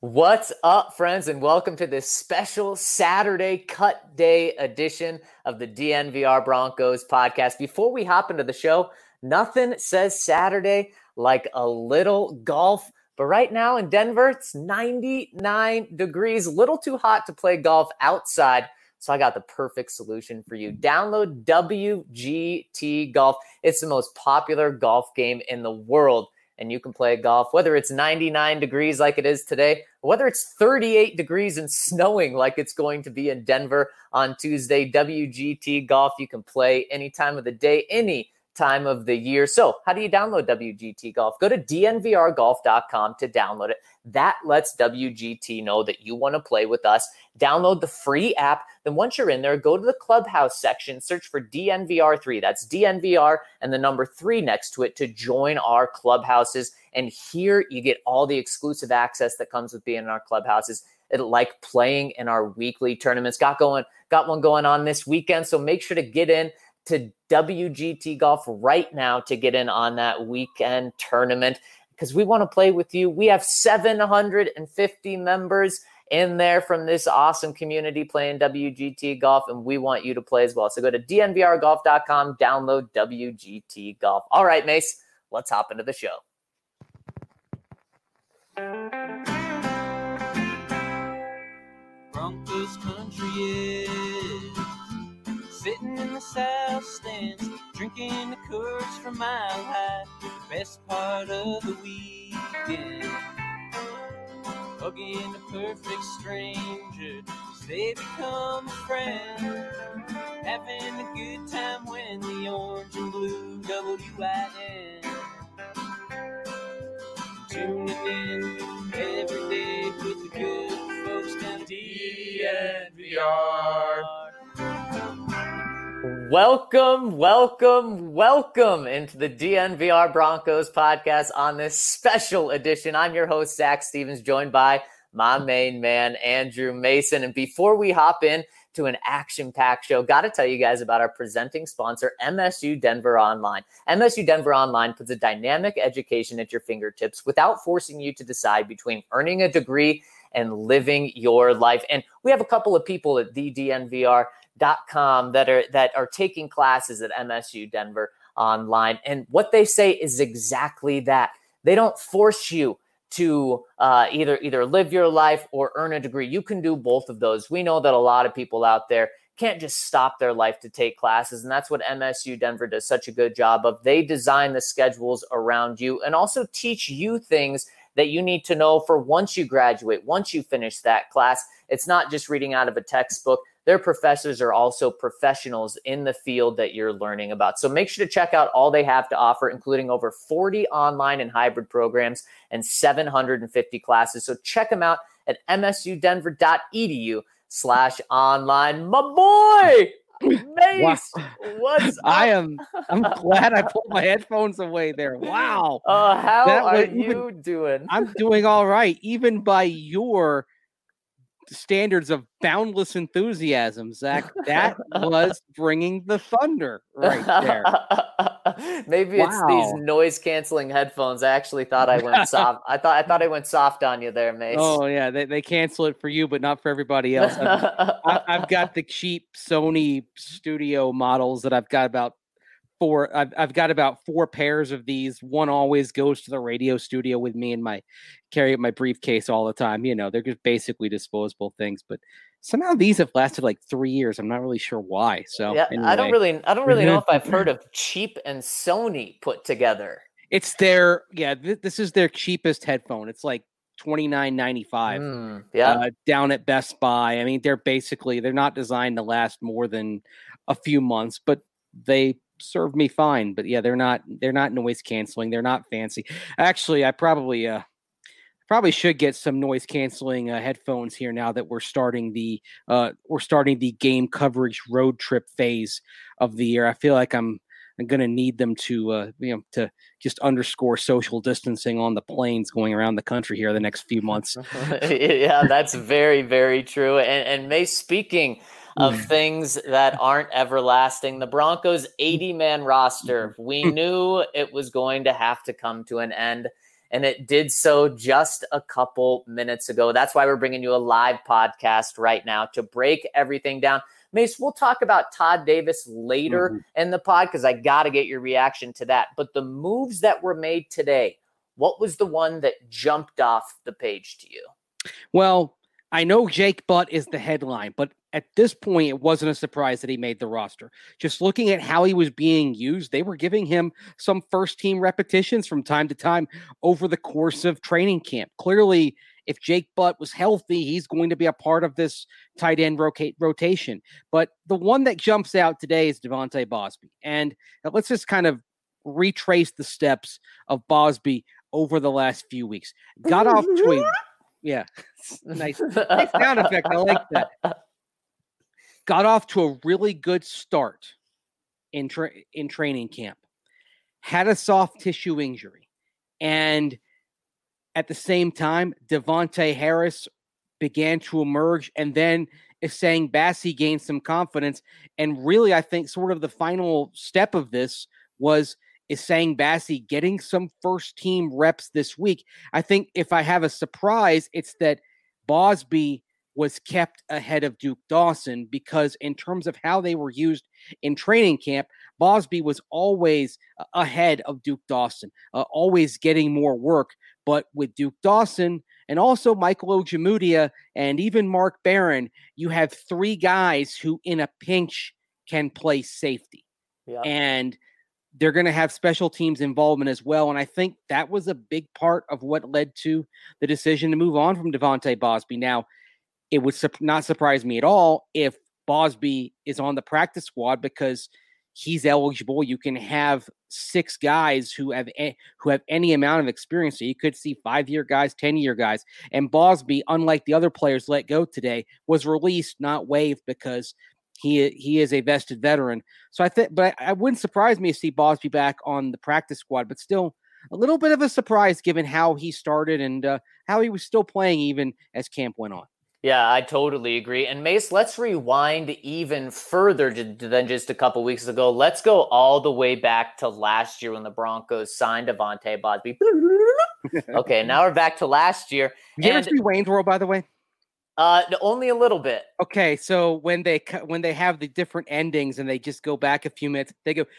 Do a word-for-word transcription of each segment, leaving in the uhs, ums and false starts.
What's up, friends, and welcome to this special Saturday cut day edition of the D N V R Broncos podcast. Before we hop into the show, nothing says Saturday like a little golf. But right now in Denver, it's ninety-nine degrees, a little too hot to play golf outside. So I got the perfect solution for you. Download W G T Golf. It's the most popular golf game in the world. And you can play golf, whether it's ninety-nine degrees like it is today, or whether it's thirty-eight degrees and snowing like it's going to be in Denver on Tuesday. W G T Golf, you can play any time of the day, any time of the year. So how do you download W G T Golf? Go to D N V R golf dot com to download it. That lets W G T know that you want to play with us. Download the free app. Then once you're in there, go to the clubhouse section, search for D N V R three. That's D N V R and the number three next to it to join our clubhouses. And here you get all the exclusive access that comes with being in our clubhouses. It, like playing in our weekly tournaments. Got going, got one going on this weekend. So make sure to get in to W G T Golf right now to get in on that weekend tournament because we want to play with you. We have seven hundred fifty members in there from this awesome community playing W G T Golf, and we want you to play as well. So go to D N V R golf dot com, download W G T Golf. All right, Mace, let's hop into the show. Broncos country is sitting in the south stands, drinking the Coors from Mile High, the best part of the weekend. Hugging a perfect stranger as they become a friend, having a good time when the orange and blue W I N. Tuning in every day with the good folks down D N V R. Welcome, welcome, welcome into the D N V R Broncos podcast on this special edition. I'm your host, Zach Stevens, joined by my main man, Andrew Mason. And before we hop in to an action-packed show, got to tell you guys about our presenting sponsor, M S U Denver Online. M S U Denver Online puts a dynamic education at your fingertips without forcing you to decide between earning a degree and living your life. And we have a couple of people at the D N V R dot com that are that are taking classes at M S U Denver Online. And what they say is exactly that. They don't force you to uh, either either live your life or earn a degree. You can do both of those. We know that a lot of people out there can't just stop their life to take classes. And that's what M S U Denver does such a good job of. They design the schedules around you and also teach you things that you need to know for once you graduate, once you finish that class. It's not just reading out of a textbook. Their professors are also professionals in the field that you're learning about. So make sure to check out all they have to offer, including over forty online and hybrid programs and seven hundred fifty classes. So check them out at M S U Denver dot E D U slash online. My boy, Mace, wow. What's up? I am, I'm glad I pulled my headphones away there. Wow. Uh, how that are even, you doing? I'm doing all right, even by your standards of boundless enthusiasm, Zach. That was bringing the thunder right there. Maybe wow. It's these noise canceling headphones. I actually thought I went soft. I thought I thought I went soft on you there, Mace. Oh yeah, they they cancel it for you, but not for everybody else. I've, I've got the cheap Sony studio models that I've got about four. I've I've got about four pairs of these. One always goes to the radio studio with me and my carry it in my briefcase all the time. You know, they're just basically disposable things, but somehow these have lasted like three years. I'm not really sure why. So yeah, anyway. I don't really, I don't really know if I've heard of cheap and Sony put together. It's their, yeah, th- this is their cheapest headphone. It's like twenty-nine ninety-five mm, yeah. uh, down at Best Buy. I mean, they're basically, they're not designed to last more than a few months, but they serve me fine. But yeah, they're not, they're not noise canceling. They're not fancy. Actually, I probably, uh, Probably should get some noise canceling uh, headphones here now that we're starting the uh, we're starting the game coverage road trip phase of the year. I feel like I'm I'm going to need them to uh, you know to just underscore social distancing on the planes going around the country here the next few months. Yeah, that's very very true. And and May, speaking of things that aren't everlasting, the Broncos' eighty man roster, we knew it was going to have to come to an end. and it did so just a couple minutes ago. That's why we're bringing you a live podcast right now to break everything down. Mace, we'll talk about Todd Davis later mm-hmm. in the pod because I got to get your reaction to that. But the moves that were made today, what was the one that jumped off the page to you? Well, I know Jake Butt is the headline, but at this point, it wasn't a surprise that he made the roster. Just looking at how he was being used, they were giving him some first-team repetitions from time to time over the course of training camp. Clearly, if Jake Butt was healthy, he's going to be a part of this tight end rota- rotation. But the one that jumps out today is Devontae Bosby. And let's just kind of retrace the steps of Bosby over the last few weeks. Got off to a yeah, nice, nice sound effect. I like that. Got off to a really good start in tra- in training camp. Had a soft tissue injury, and at the same time, Devontae Harris began to emerge, and then Essang Bassey gained some confidence. And really, I think sort of the final step of this was Essang Bassey getting some first team reps this week. I think if I have a surprise, it's that Bosby was kept ahead of Duke Dawson, because in terms of how they were used in training camp, Bosby was always ahead of Duke Dawson, uh, always getting more work. But with Duke Dawson and also Michael Ojemudia and even Mark Barron, you have three guys who in a pinch can play safety. Yeah. And they're going to have special teams involvement as well. And I think that was a big part of what led to the decision to move on from Devontae Bosby. Now, it would su- not surprise me at all if Bosby is on the practice squad because he's eligible. You can have six guys who have a- who have any amount of experience. So you could see five-year guys, ten-year guys. And Bosby, unlike the other players let go today, was released, not waived, because He he is a vested veteran. So I think, but I, I wouldn't surprise me to see Bosby back on the practice squad, but still a little bit of a surprise given how he started and uh, how he was still playing even as camp went on. Yeah, I totally agree. And Mace, let's rewind even further than just a couple weeks ago. Let's go all the way back to last year when the Broncos signed Devontae Bosby. Okay, now we're back to last year. Did you ever see Wayne's World, by the way? Uh, only a little bit. Okay, so when they when they have the different endings and they just go back a few minutes, they go.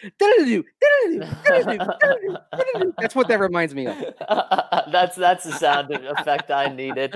That's what that reminds me of. that's that's the sound effect I needed.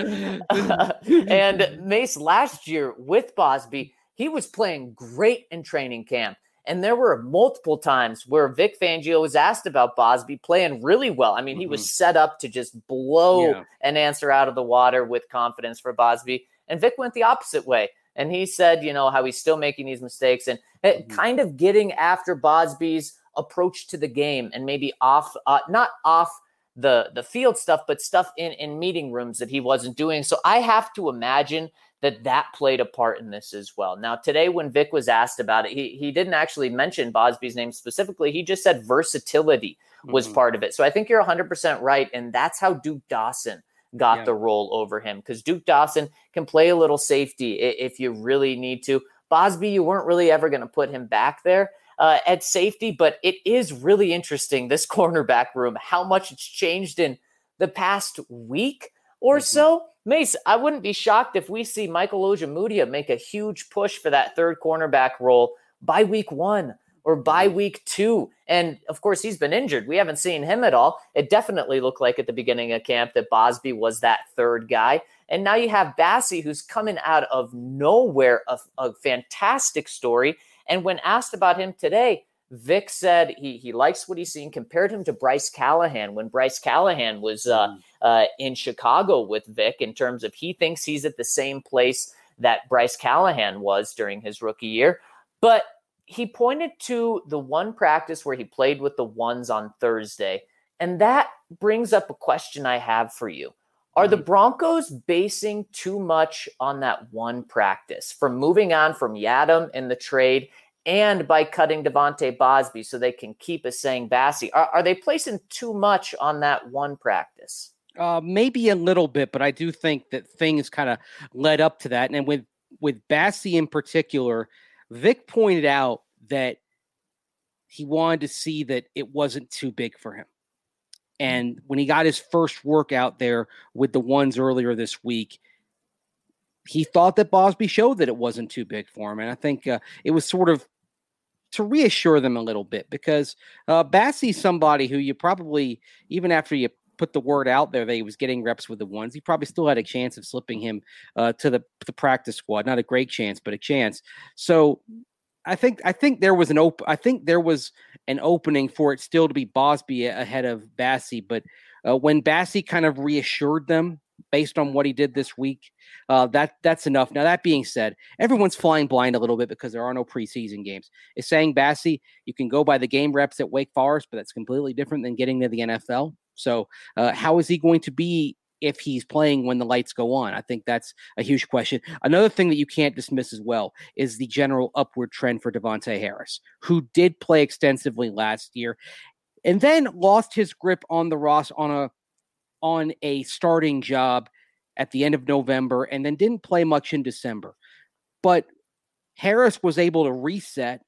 And Mace, last year with Bosby, he was playing great in training camp. And there were multiple times where Vic Fangio was asked about Bosby playing really well. I mean, mm-hmm. he was set up to just blow yeah. an answer out of the water with confidence for Bosby. And Vic went the opposite way. And he said, you know, how he's still making these mistakes and mm-hmm. kind of getting after Bosby's approach to the game and maybe off, uh, not off the, the field stuff, but stuff in, in meeting rooms that he wasn't doing. So I have to imagine that that played a part in this as well. Now, today when Vic was asked about it, he he didn't actually mention Bosby's name specifically. He just said versatility was mm-hmm. part of it. So I think you're one hundred percent right, and that's how Duke Dawson got yeah. the role over him, because Duke Dawson can play a little safety if you really need to. Bosby, you weren't really ever going to put him back there uh, at safety, but it is really interesting, this cornerback room, how much it's changed in the past week or mm-hmm. so. Mace, I wouldn't be shocked if we see Michael Ojemudia make a huge push for that third cornerback role by week one or by week two. And, of course, he's been injured. We haven't seen him at all. It definitely looked like at the beginning of camp that Bosby was that third guy. And now you have Bassey, who's coming out of nowhere, a, a fantastic story. And when asked about him today, Vic said he he likes what he's seen, compared him to Bryce Callahan when Bryce Callahan was uh, uh, in Chicago with Vic, in terms of he thinks he's at the same place that Bryce Callahan was during his rookie year. But he pointed to the one practice where he played with the ones on Thursday. And that brings up a question I have for you. Are mm-hmm. the Broncos basing too much on that one practice from moving on from Yadam in the trade and by cutting Devontae Bosby so they can keep Essang Bassey? Are, are they placing too much on that one practice? Uh, maybe a little bit, but I do think that things kind of led up to that. And with, with Bassey in particular, Vic pointed out that he wanted to see that it wasn't too big for him. And when he got his first workout there with the ones earlier this week, he thought that Bosby showed that it wasn't too big for him. And I think uh, it was sort of to reassure them a little bit, because uh, Bassey's somebody who you probably, even after you put the word out there that he was getting reps with the ones, he probably still had a chance of slipping him uh, to the, the practice squad. Not a great chance, but a chance. So I think I think there was an op- I think there was an opening for it still to be Bosby ahead of Bassey. But uh, when Bassey kind of reassured them based on what he did this week, uh, that that's enough. Now, that being said, everyone's flying blind a little bit because there are no preseason games. It's saying Bassey, you can go by the game reps at Wake Forest, but that's completely different than getting to the N F L. So uh, how is he going to be if he's playing when the lights go on? I think that's a huge question. Another thing that you can't dismiss as well is the general upward trend for Davontae Harris, who did play extensively last year and then lost his grip on the Ross on a on a starting job at the end of November and then didn't play much in December. But Harris was able to reset,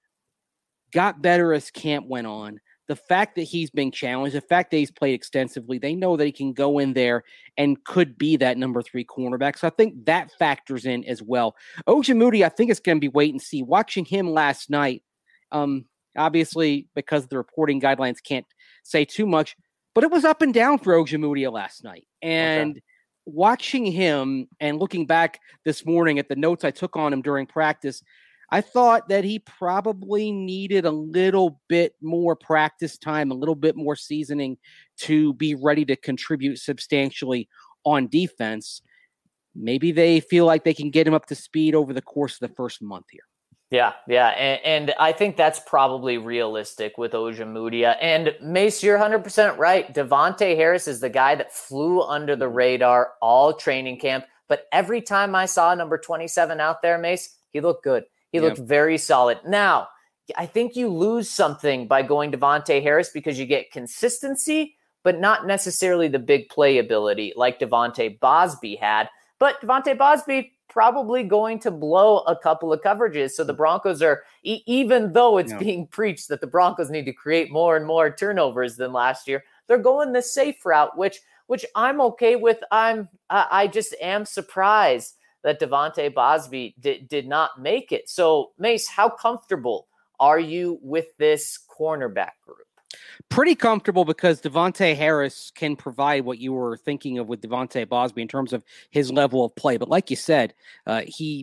got better as camp went on. The fact that he's being challenged, the fact that he's played extensively, they know that he can go in there and could be that number three cornerback. So I think that factors in as well. Ojemudia, I think it's going to be wait and see. Watching him last night, um, obviously because the reporting guidelines can't say too much, but it was up and down for Ojemudia last night. And okay. Watching him and looking back this morning at the notes I took on him during practice, I thought that he probably needed a little bit more practice time, a little bit more seasoning to be ready to contribute substantially on defense. Maybe they feel like they can get him up to speed over the course of the first month here. Yeah, yeah, and, and I think that's probably realistic with Ojemudia. And Mace, you're one hundred percent right. Davontae Harris is the guy that flew under the radar all training camp. But every time I saw number twenty-seven out there, Mace, he looked good. He yep. looked very solid. Now, I think you lose something by going Davontae Harris because you get consistency, but not necessarily the big playability like Devontae Bosby had. But Devontae Bosby probably going to blow a couple of coverages. So the Broncos are, e- even though it's yeah. being preached that the Broncos need to create more and more turnovers than last year, they're going the safe route, which which I'm okay with. I'm I, I just am surprised that Devontae Bosby did, did not make it. So Mace, how comfortable are you with this cornerback group? Pretty comfortable, because Davontae Harris can provide what you were thinking of with Devontae Bosby in terms of his level of play. But like you said, uh, he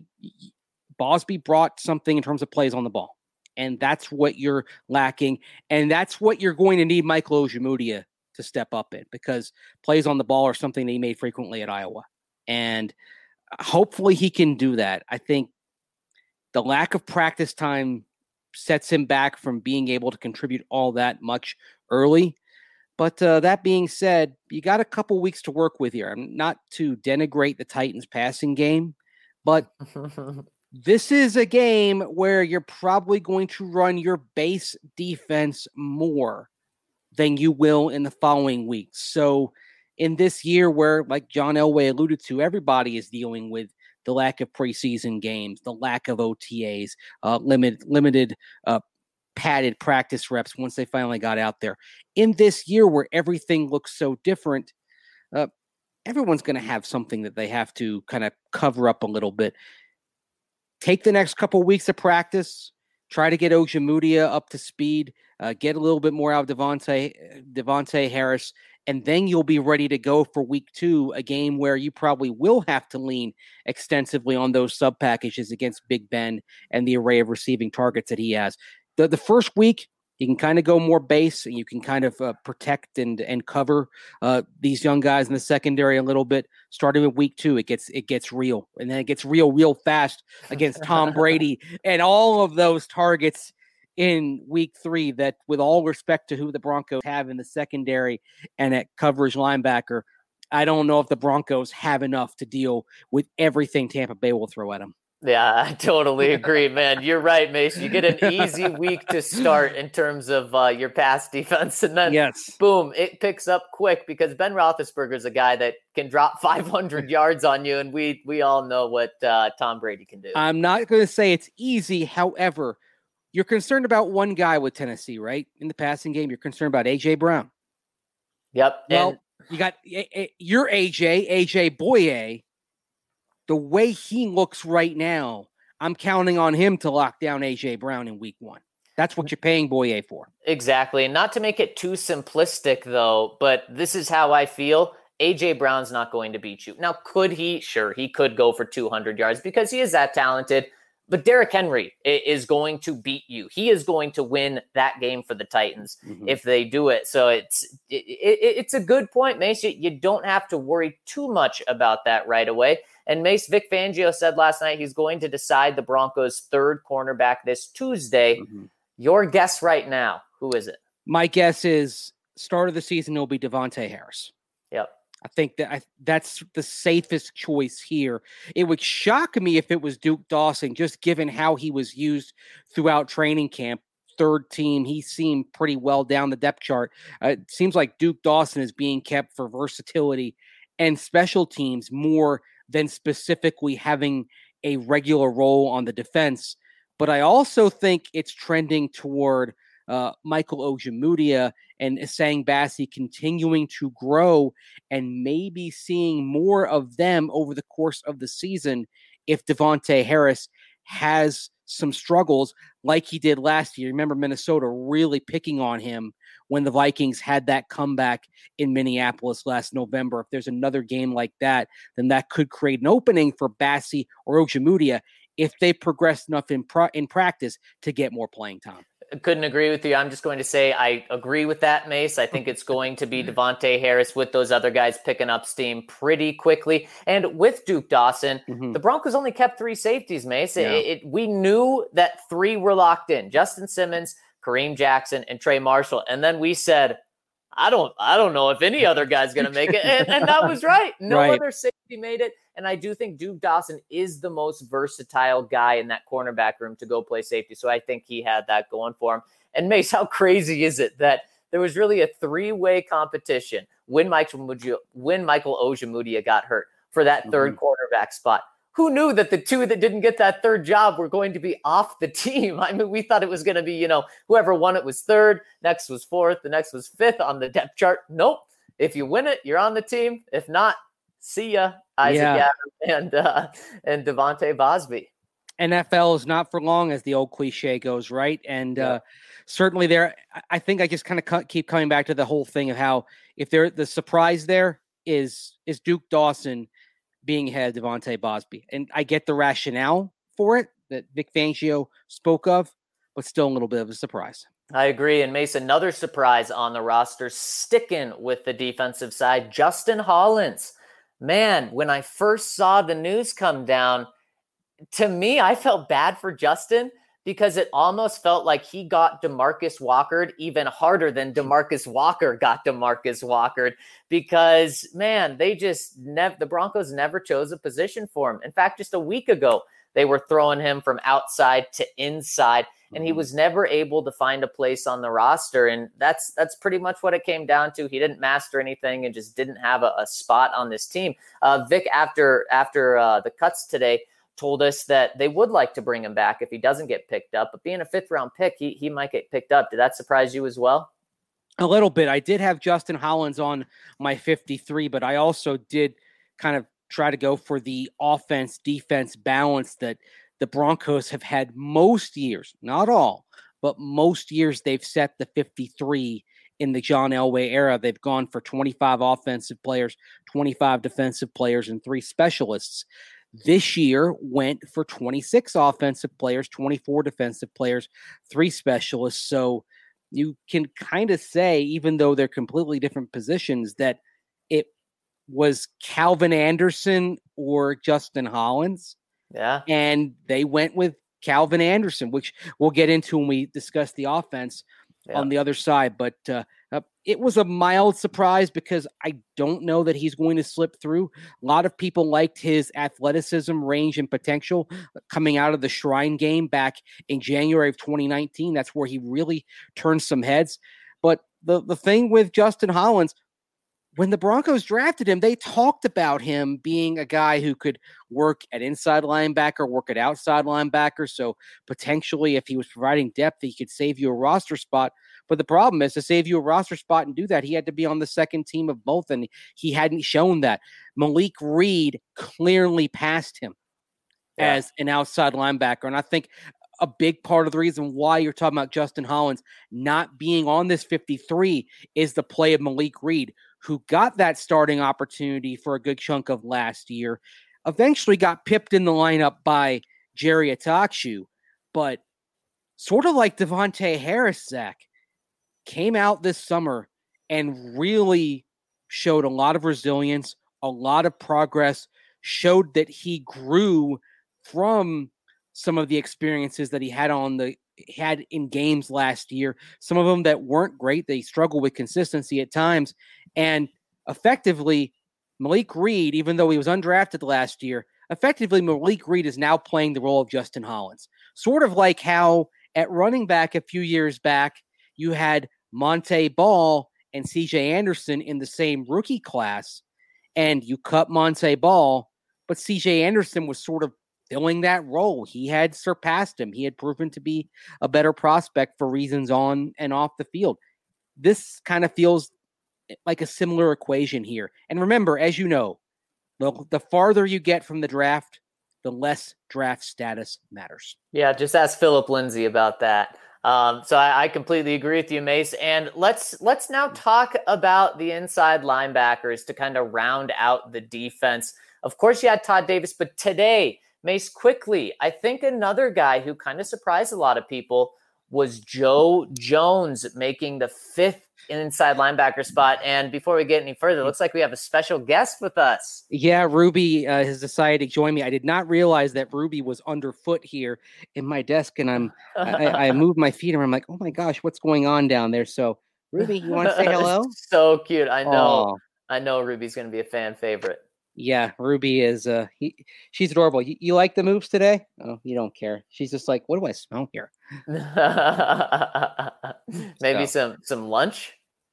Bosby brought something in terms of plays on the ball, and that's what you're lacking, and that's what you're going to need Michael Ojemudia to step up in, because plays on the ball are something that he made frequently at Iowa, and hopefully he can do that. I think the lack of practice time sets him back from being able to contribute all that much early. But uh, that being said, you got a couple weeks to work with here. I'm not to denigrate the Titans passing game, but this is a game where you're probably going to run your base defense more than you will in the following weeks. So in this year where, like John Elway alluded to, everybody is dealing with the lack of preseason games, the lack of O T As, uh, limited, limited uh, padded practice reps once they finally got out there. In this year where everything looks so different, uh, everyone's going to have something that they have to kind of cover up a little bit. Take the next couple of weeks of practice, try to get Ojemudia up to speed, uh, get a little bit more out of Devontae, Devontae Harris, and then you'll be ready to go for week two, a game where you probably will have to lean extensively on those sub packages against Big Ben and the array of receiving targets that he has. The, the first week, you can kind of go more base, and you can kind of uh, protect and and cover uh, these young guys in the secondary a little bit. Starting with week two, it gets it gets real, and then it gets real real fast against Tom Brady and all of those targets in week three. That, with all respect to who the Broncos have in the secondary and at coverage linebacker, I don't know if the Broncos have enough to deal with everything Tampa Bay will throw at them. Yeah, I totally agree, man. You're right, Mason. You get an easy week to start in terms of uh, your pass defense, and then yes. boom, it picks up quick, because Ben Roethlisberger is a guy that can drop five hundred yards on you, and we we all know what uh, Tom Brady can do. I'm not going to say it's easy. However, you're concerned about one guy with Tennessee, right? In the passing game, you're concerned about A J Brown. Yep. Well, and you got your A J, A J Boye. The way he looks right now, I'm counting on him to lock down A J Brown in week one. That's what you're paying Boye for. Exactly. And not to make it too simplistic, though, but this is how I feel. A J Brown's not going to beat you. Now, could he? Sure, he could go for two hundred yards because he is that talented. But Derrick Henry is going to beat you. He is going to win that game for the Titans mm-hmm. if they do it. So it's it, it, it's a good point, Mace. You don't have to worry too much about that right away. And Mace, Vic Fangio said last night he's going to decide the Broncos' third cornerback this Tuesday. Mm-hmm. Your guess right now, who is it? My guess is start of the season will be Davante Harris. Yep. I think that I, that's the safest choice here. It would shock me if it was Duke Dawson, just given how he was used throughout training camp. Third team, he seemed pretty well down the depth chart. Uh, it seems like Duke Dawson is being kept for versatility and special teams more than specifically having a regular role on the defense. But I also think it's trending toward uh, Michael Ojemudia and Essang Bassey continuing to grow and maybe seeing more of them over the course of the season if Davante Harris has some struggles like he did last year. Remember Minnesota really picking on him when the Vikings had that comeback in Minneapolis last November. If there's another game like that, then that could create an opening for Bassey or Ojemudia if they progress enough in, pro- in practice to get more playing time. Couldn't agree with you. I'm just going to say I agree with that, Mace. I think it's going to be Davante Harris with those other guys picking up steam pretty quickly. And with Duke Dawson, mm-hmm. the Broncos only kept three safeties, Mace. Yeah. It, it, we knew that three were locked in. Justin Simmons, Kareem Jackson, and Trey Marshall. And then we said, I don't I don't know if any other guy's going to make it. And, and that was right. No right. other safety made it. And I do think Duke Dawson is the most versatile guy in that cornerback room to go play safety. So I think he had that going for him. And Mace, how crazy is it that there was really a three-way competition when Michael, when Michael Ojemudia got hurt for that mm-hmm. third quarterback spot? Who knew that the two that didn't get that third job were going to be off the team? I mean, we thought it was going to be, you know, whoever won it was third, next was fourth, the next was fifth on the depth chart. Nope. If you win it, you're on the team. If not, see ya, Isaac yeah. Adams and uh, and Devontae Bosby. N F L is not for long, as the old cliche goes, right? And yeah. uh, certainly there, I think I just kind of cu- keep coming back to the whole thing of how if there the surprise there is is Duke Dawson being ahead of Devontae Bosby. And I get the rationale for it that Vic Fangio spoke of, but still a little bit of a surprise. I agree. And Mace, another surprise on the roster, sticking with the defensive side, Justin Hollins. Man, when I first saw the news come down, to me, I felt bad for Justin because it almost felt like he got DeMarcus Walkered even harder than DeMarcus Walker got DeMarcus Walkered because, man, they just never, the Broncos never chose a position for him. In fact, just a week ago, they were throwing him from outside to inside, and he was never able to find a place on the roster. And that's that's pretty much what it came down to. He didn't master anything and just didn't have a, a spot on this team. Uh, Vic, after after uh, the cuts today, told us that they would like to bring him back if he doesn't get picked up. But being a fifth round pick, he he might get picked up. Did that surprise you as well? A little bit. I did have Justin Hollins on my fifty-three, but I also did kind of try to go for the offense defense balance that the Broncos have had most years, not all, but most years they've set the fifty-three in the John Elway era. They've gone for twenty-five offensive players, twenty-five defensive players, and three specialists. This year went for twenty-six offensive players, twenty-four defensive players, three specialists. So you can kind of say, even though they're completely different positions, that it was Calvin Anderson or Justin Hollins. Yeah. And they went with Calvin Anderson, which we'll get into when we discuss the offense yeah. on the other side. But uh, uh, it was a mild surprise because I don't know that he's going to slip through. A lot of people liked his athleticism, range, and potential coming out of the Shrine game back in January of twenty nineteen. That's where he really turned some heads. But the, the thing with Justin Hollins, when the Broncos drafted him, they talked about him being a guy who could work at inside linebacker, work at outside linebacker. So potentially if he was providing depth, he could save you a roster spot. But the problem is, to save you a roster spot and do that, he had to be on the second team of both, and he hadn't shown that. Malik Reed clearly passed him yeah. as an outside linebacker, and I think a big part of the reason why you're talking about Justin Hollins not being on this fifty-three is the play of Malik Reed, who got that starting opportunity for a good chunk of last year, eventually got pipped in the lineup by Jerry Atakshu, but sort of like Devontae Harris, Zach, came out this summer and really showed a lot of resilience, a lot of progress, showed that he grew from some of the experiences that he had on the had in games last year, some of them that weren't great. They struggled with consistency at times. And effectively, Malik Reed, even though he was undrafted last year, effectively Malik Reed is now playing the role of Justin Hollins. Sort of like how at running back a few years back, you had Monte Ball and C J Anderson in the same rookie class, and you cut Monte Ball, but C J Anderson was sort of filling that role. He had surpassed him. He had proven to be a better prospect for reasons on and off the field. This kind of feels like a similar equation here. And remember, as you know, the, the farther you get from the draft, the less draft status matters. Yeah, just ask Philip Lindsay about that. Um, so I, I completely agree with you, Mace. And let's let's now talk about the inside linebackers to kind of round out the defense. Of course, you had Todd Davis, but today, Mace, quickly, I think another guy who kind of surprised a lot of people was Joe Jones making the fifth inside linebacker spot. And before we get any further, it looks like we have a special guest with us. Yeah, Ruby uh, has decided to join me. I did not realize that Ruby was underfoot here in my desk, and I'm I, I moved my feet and I'm like, oh my gosh, what's going on down there? So Ruby, you want to say hello? So cute. I know. Aww. I know Ruby's going to be a fan favorite. Yeah, Ruby is, uh, he, she's adorable. You, you like the moves today? Oh, you don't care. She's just like, what do I smell here? Maybe so. some, some lunch?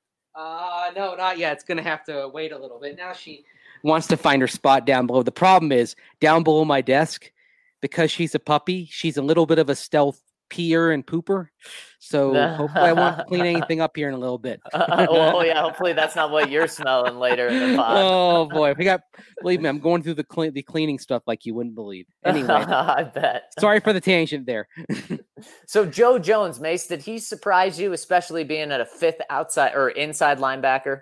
Uh, no, not yet. It's going to have to wait a little bit. Now she wants to find her spot down below. The problem is, down below my desk, because she's a puppy, she's a little bit of a stealth peer and pooper. So hopefully I won't clean anything up here in a little bit. uh, well, yeah, hopefully that's not what you're smelling later in the pod. Oh boy, we got. Believe me, I'm going through the clean, the cleaning stuff like you wouldn't believe. Anyway, I bet. Sorry for the tangent there. So Joe Jones, Mace, did he surprise you, especially being at a fifth outside or inside linebacker?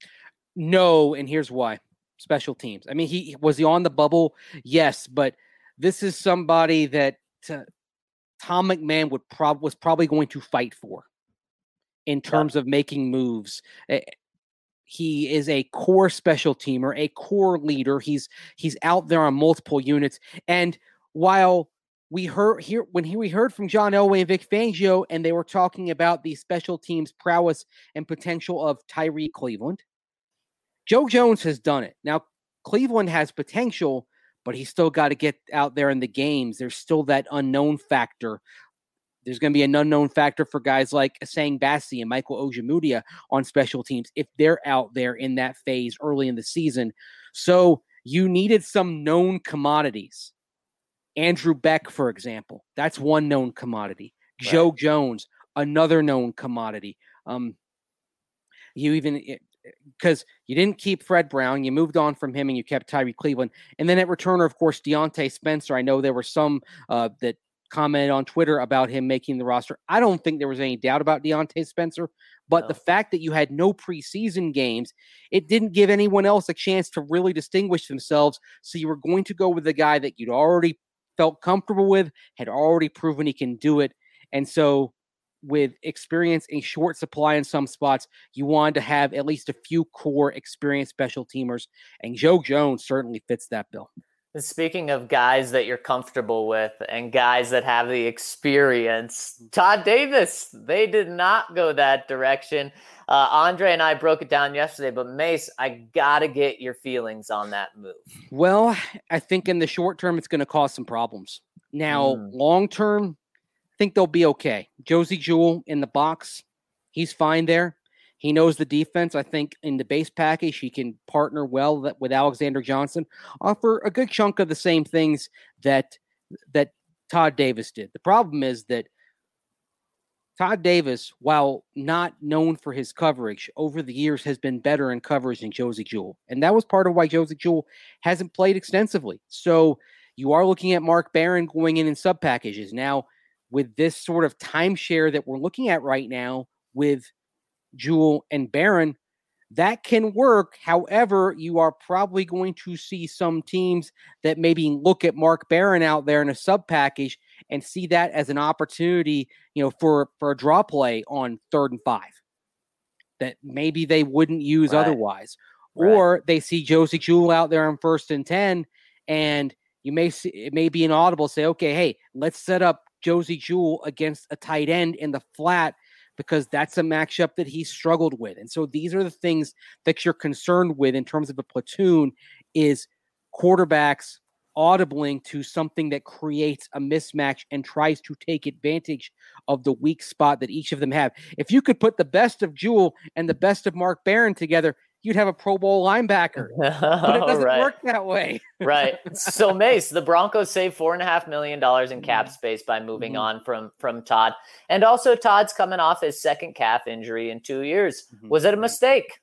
No, and here's why: special teams. I mean, he was he on the bubble? Yes, but this is somebody that. Uh, Tom McMahon would prob- was probably going to fight for in terms yeah. of making moves. Uh, he is a core special teamer, a core leader. He's he's out there on multiple units. And while we heard here when he, we heard from John Elway and Vic Fangio, and they were talking about the special teams prowess and potential of Tyree Cleveland, Joe Jones has done it. Now, Cleveland has potential, but he's still got to get out there in the games. There's still that unknown factor. There's going to be an unknown factor for guys like Asang Bassi and Michael Ojemudia on special teams if they're out there in that phase early in the season. So you needed some known commodities. Andrew Beck, for example, that's one known commodity. Right. Joe Jones, another known commodity. Um, you even... It, because you didn't keep Fred Brown, you moved on from him and you kept Tyree Cleveland. And then at returner, of course, Deontay Spencer. I know there were some uh, that commented on Twitter about him making the roster. I don't think there was any doubt about Deontay Spencer, but no. the fact that you had no preseason games, it didn't give anyone else a chance to really distinguish themselves. So you were going to go with the guy that you'd already felt comfortable with, had already proven he can do it. And so with experience in short supply in some spots, you wanted to have at least a few core experienced special teamers, and Joe Jones certainly fits that bill. Speaking of guys that you're comfortable with and guys that have the experience, Todd Davis, they did not go that direction. Uh, Andre and I broke it down yesterday, but Mace, I got to get your feelings on that move. Well, I think in the short term, it's going to cause some problems. Now, mm. long term, I think they'll be okay. Josie Jewell in the box, he's fine there. He knows the defense. I think in the base package, he can partner well with Alexander Johnson, offer a good chunk of the same things that that Todd Davis did. The problem is that Todd Davis, while not known for his coverage, over the years has been better in coverage than Josey Jewell. And that was part of why Josey Jewell hasn't played extensively. So you are looking at Mark Barron going in in sub packages. Now, with this sort of timeshare that we're looking at right now with Jewell and Barron, that can work. However, you are probably going to see some teams that maybe look at Mark Barron out there in a sub package and see that as an opportunity, you know, for, for a draw play on third and five that maybe they wouldn't use right. otherwise. Right. Or they see Josey Jewell out there on first and ten, and you may see, it may be an audible say, okay, hey, let's set up Josey Jewell against a tight end in the flat because that's a matchup that he struggled with. And so these are the things that you're concerned with in terms of a platoon is quarterbacks audibling to something that creates a mismatch and tries to take advantage of the weak spot that each of them have. If you could put the best of Jewell and the best of Mark Barron together, you'd have a Pro Bowl linebacker, but it doesn't right. work that way. Right. So Mace, the Broncos saved four and a half million dollars in cap space by moving mm-hmm. on from, from Todd. And also Todd's coming off his second calf injury in two years. Mm-hmm. Was it a mistake?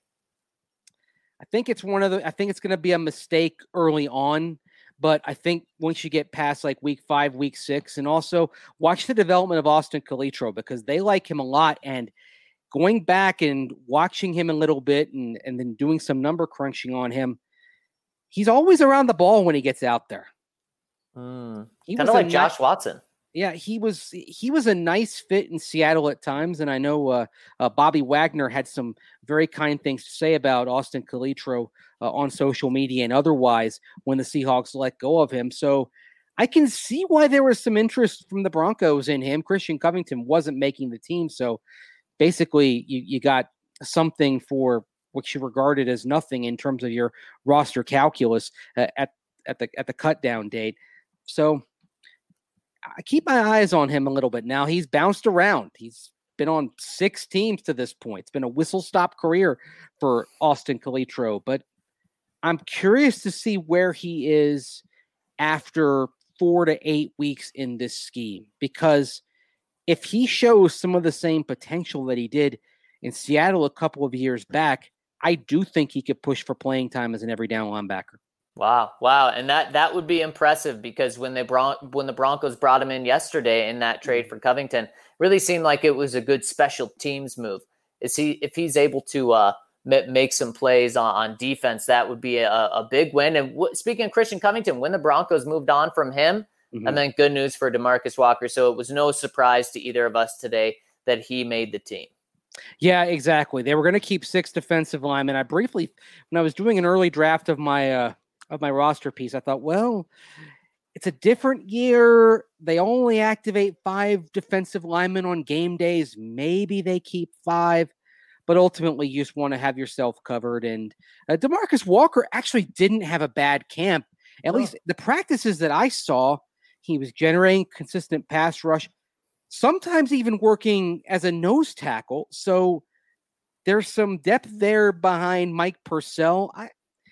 I think it's one of the, I think it's going to be a mistake early on, but I think once you get past like week five, week six, and also watch the development of Austin Calitro because they like him a lot. And going back and watching him a little bit and, and then doing some number crunching on him, he's always around the ball when he gets out there. Mm, kind of like Josh nice, Watson. Yeah, he was he was a nice fit in Seattle at times, and I know uh, uh, Bobby Wagner had some very kind things to say about Austin Calitro uh, on social media and otherwise when the Seahawks let go of him. So I can see why there was some interest from the Broncos in him. Christian Covington wasn't making the team, so basically, you, you got something for what you regarded as nothing in terms of your roster calculus uh, at at the at the cut down date. So I keep my eyes on him a little bit now. He's bounced around. He's been on six teams to this point. It's been a whistle stop career for Austin Calitro, but I'm curious to see where he is after four to eight weeks in this scheme because if he shows some of the same potential that he did in Seattle a couple of years back, I do think he could push for playing time as an every down linebacker. Wow. Wow. And that, that would be impressive because when they brought, when the Broncos brought him in yesterday in that trade for Covington, really seemed like it was a good special teams move. Is he, if he's able to uh, m- make some plays on, on defense, that would be a, a big win. And w- speaking of Christian Covington, when the Broncos moved on from him, mm-hmm. and then good news for DeMarcus Walker. So it was no surprise to either of us today that he made the team. Yeah, exactly. They were going to keep six defensive linemen. I briefly, when I was doing an early draft of my, uh, of my roster piece, I thought, well, it's a different year. They only activate five defensive linemen on game days. Maybe they keep five, but ultimately you just want to have yourself covered. And uh, DeMarcus Walker actually didn't have a bad camp. At oh. least the practices that I saw, he was generating consistent pass rush, sometimes even working as a nose tackle. So there's some depth there behind Mike Purcell. I,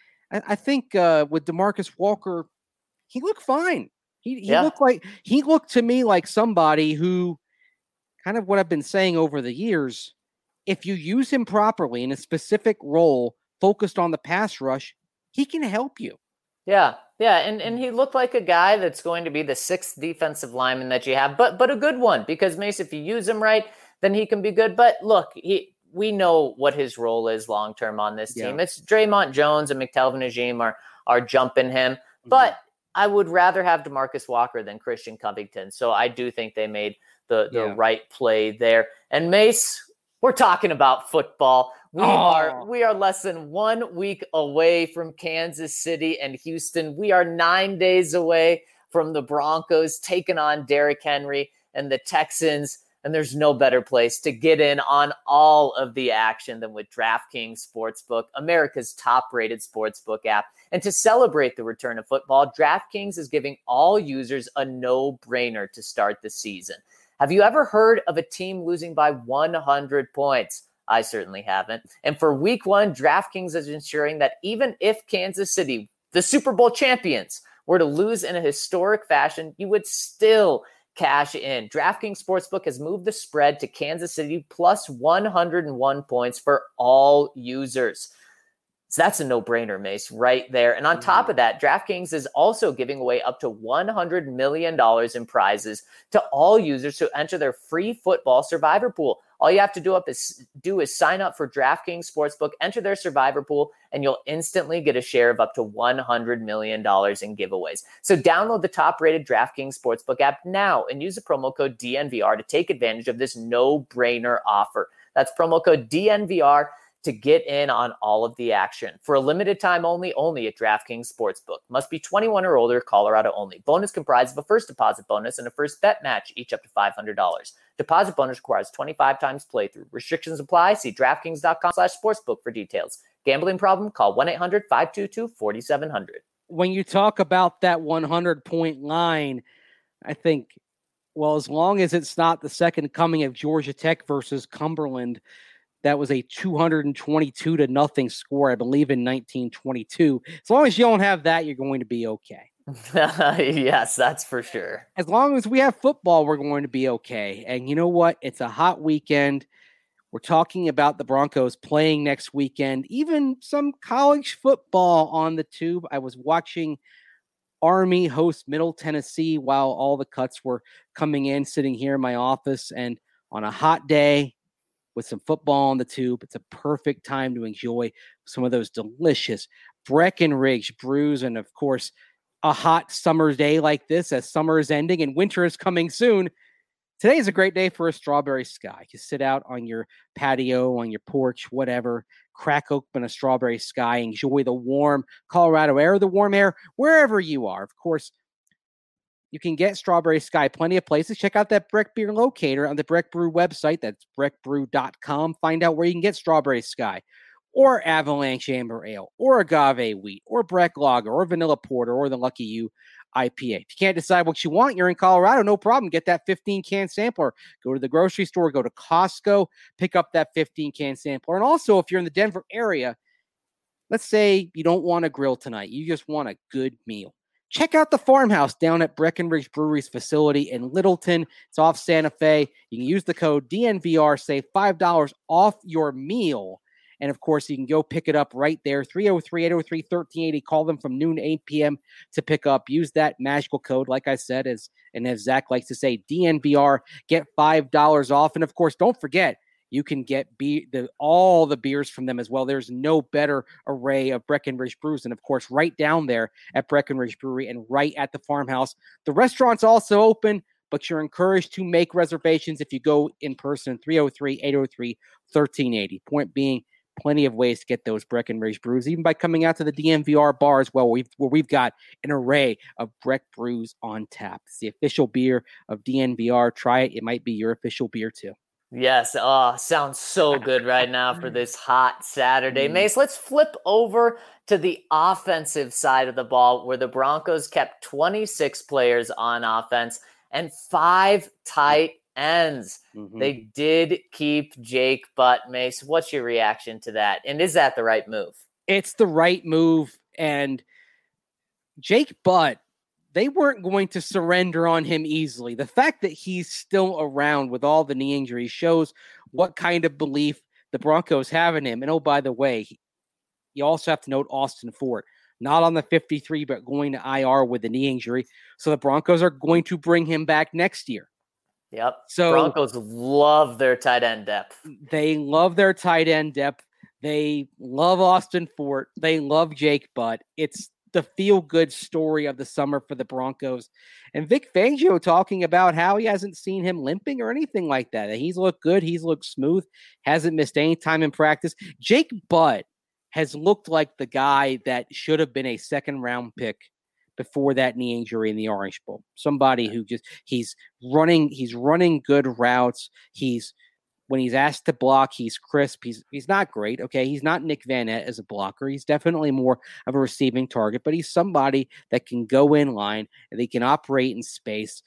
I think uh, with DeMarcus Walker, he looked fine. He he yeah. looked like he looked to me like somebody who, kind of what I've been saying over the years, if you use him properly in a specific role focused on the pass rush, he can help you. Yeah, yeah, and and he looked like a guy that's going to be the sixth defensive lineman that you have, but but a good one because Mace, if you use him right, then he can be good. But look, he. We know what his role is long-term on this team. Yeah. It's Draymond Jones and McTelvin Agim are, are jumping him, mm-hmm. but I would rather have DeMarcus Walker than Christian Covington. So I do think they made the, the yeah. right play there. And Mace, we're talking about football. We oh. are, we are less than one week away from Kansas City and Houston. We are nine days away from the Broncos taking on Derrick Henry and the Texans. And there's no better place to get in on all of the action than with DraftKings Sportsbook, America's top-rated sportsbook app. And to celebrate the return of football, DraftKings is giving all users a no-brainer to start the season. Have you ever heard of a team losing by one hundred points? I certainly haven't. And for week one, DraftKings is ensuring that even if Kansas City, the Super Bowl champions, were to lose in a historic fashion, you would still cash in. DraftKings Sportsbook has moved the spread to Kansas City plus one hundred one points for all users. So that's a no-brainer, Mace, right there. And on mm-hmm. top of that, DraftKings is also giving away up to one hundred million dollars in prizes to all users who enter their free football survivor pool. All you have to do, up is, do is sign up for DraftKings Sportsbook, enter their survivor pool, and you'll instantly get a share of up to one hundred million dollars in giveaways. So download the top-rated DraftKings Sportsbook app now and use the promo code D N V R to take advantage of this no-brainer offer. That's promo code D N V R to get in on all of the action. For a limited time only, only at DraftKings Sportsbook. Must be twenty-one or older, Colorado only. Bonus comprised of a first deposit bonus and a first bet match, each up to five hundred dollars. Deposit bonus requires twenty-five times playthrough. Restrictions apply. See DraftKings.com slash sportsbook for details. Gambling problem? Call one eight hundred five two two four seven zero zero. When you talk about that one hundred point line, I think, well, as long as it's not the second coming of Georgia Tech versus Cumberland, that was a two hundred twenty-two to nothing score, I believe, in nineteen twenty-two. As long as you don't have that, you're going to be okay. Yes, that's for sure. As long as we have football, we're going to be okay. And you know what? It's a hot weekend. We're talking about the Broncos playing next weekend, even some college football on the tube. I was watching Army host Middle Tennessee while all the cuts were coming in, sitting here in my office. And on a hot day, with some football on the tube, it's a perfect time to enjoy some of those delicious Breckenridge brews. And of course, a hot summer day like this, as summer is ending and winter is coming soon. Today is a great day for a strawberry sky. You sit out on your patio, on your porch, whatever, crack open a strawberry sky, enjoy the warm Colorado air, the warm air, wherever you are. Of course, you can get Strawberry Sky plenty of places. Check out that Breck Beer locator on the Breck Brew website. That's breck brew dot com. Find out where you can get Strawberry Sky or Avalanche Amber Ale or Agave Wheat or Breck Lager or Vanilla Porter or the Lucky You I P A. If you can't decide what you want, you're in Colorado, no problem. Get that fifteen-can sampler. Go to the grocery store, go to Costco, pick up that fifteen-can sampler. And also, if you're in the Denver area, let's say you don't want to grill tonight. You just want a good meal. Check out the Farmhouse down at Breckenridge Brewery's facility in Littleton. It's off Santa Fe. You can use the code D N V R, save five dollars off your meal. And, of course, you can go pick it up right there, three oh three, eight oh three, one three eight oh. Call them from noon to eight p.m. to pick up. Use that magical code, like I said, as and as Zach likes to say, D N V R, get five dollars off. And, of course, don't forget, you can get be- the, all the beers from them as well. There's no better array of Breckenridge brews. And, of course, right down there at Breckenridge Brewery and right at the Farmhouse. The restaurant's also open, but you're encouraged to make reservations if you go in person, three oh three, eight oh three, one three eight oh. Point being, plenty of ways to get those Breckenridge brews, even by coming out to the D N V R bar as well, where we've, where we've got an array of Breck brews on tap. It's the official beer of D N V R. Try it. It might be your official beer, too. Yes. Oh, sounds so good right now for this hot Saturday. Mace, let's flip over to the offensive side of the ball, where the Broncos kept twenty-six players on offense and five tight ends. Mm-hmm. They did keep Jake Butt. Mace, what's your reaction to that? And is that the right move? It's the right move. And Jake Butt, they weren't going to surrender on him easily. The fact that he's still around with all the knee injuries shows what kind of belief the Broncos have in him. And oh, by the way, you also have to note Austin Fort, not on the fifty-three, but going to I R with the knee injury. So the Broncos are going to bring him back next year. Yep. So Broncos love their tight end depth. They love their tight end depth. They love Austin Fort. They love Jake Butt. It's the feel-good story of the summer for the Broncos. And Vic Fangio talking about how he hasn't seen him limping or anything like that. He's looked good. He's looked smooth. Hasn't missed any time in practice. Jake Butt has looked like the guy that should have been a second-round pick before that knee injury in the Orange Bowl. Somebody who just, he's running, he's running good routes. He's, when he's asked to block, he's crisp. He's he's not great. Okay, he's not Nick Van Nett as a blocker. He's definitely more of a receiving target, but he's somebody that can go in line and they can operate in space.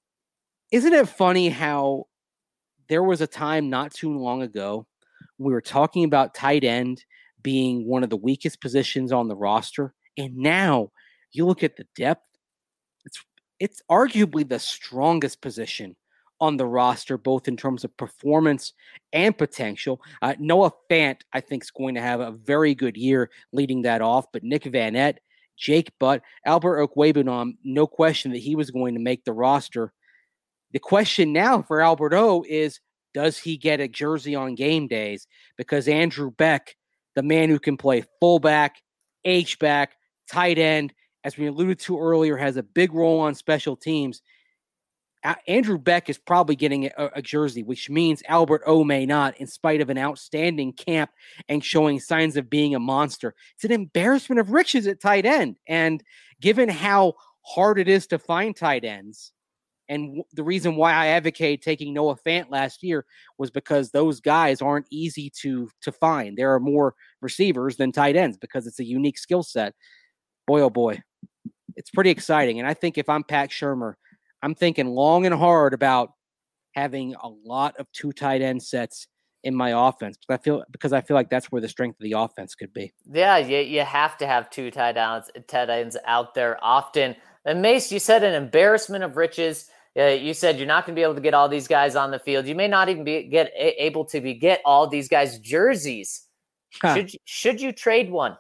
Isn't it funny how there was a time not too long ago we were talking about tight end being one of the weakest positions on the roster, and now you look at the depth. It's it's arguably the strongest position on the roster, both in terms of performance and potential. Uh, Noah Fant, I think, is going to have a very good year leading that off, but Nick Vannett, Jake Butt, Albert Okwuegbunam, no question that he was going to make the roster. The question now for Albert O is, does he get a jersey on game days? Because Andrew Beck, the man who can play fullback, H-back, tight end, as we alluded to earlier, has a big role on special teams. Andrew Beck is probably getting a, a jersey, which means Albert O may not, in spite of an outstanding camp and showing signs of being a monster. It's an embarrassment of riches at tight end. And given how hard it is to find tight ends, and w- the reason why I advocated taking Noah Fant last year was because those guys aren't easy to, to find. There are more receivers than tight ends because it's a unique skill set. Boy, oh boy, it's pretty exciting. And I think if I'm Pat Shurmur, I'm thinking long and hard about having a lot of two tight end sets in my offense. Because I feel because I feel like that's where the strength of the offense could be. Yeah, you, you have to have two tight ends, tight ends out there often. And Mace, you said an embarrassment of riches. Uh, you said you're not going to be able to get all these guys on the field. You may not even be get able to be get all these guys jerseys. Huh. Should you, should you trade one?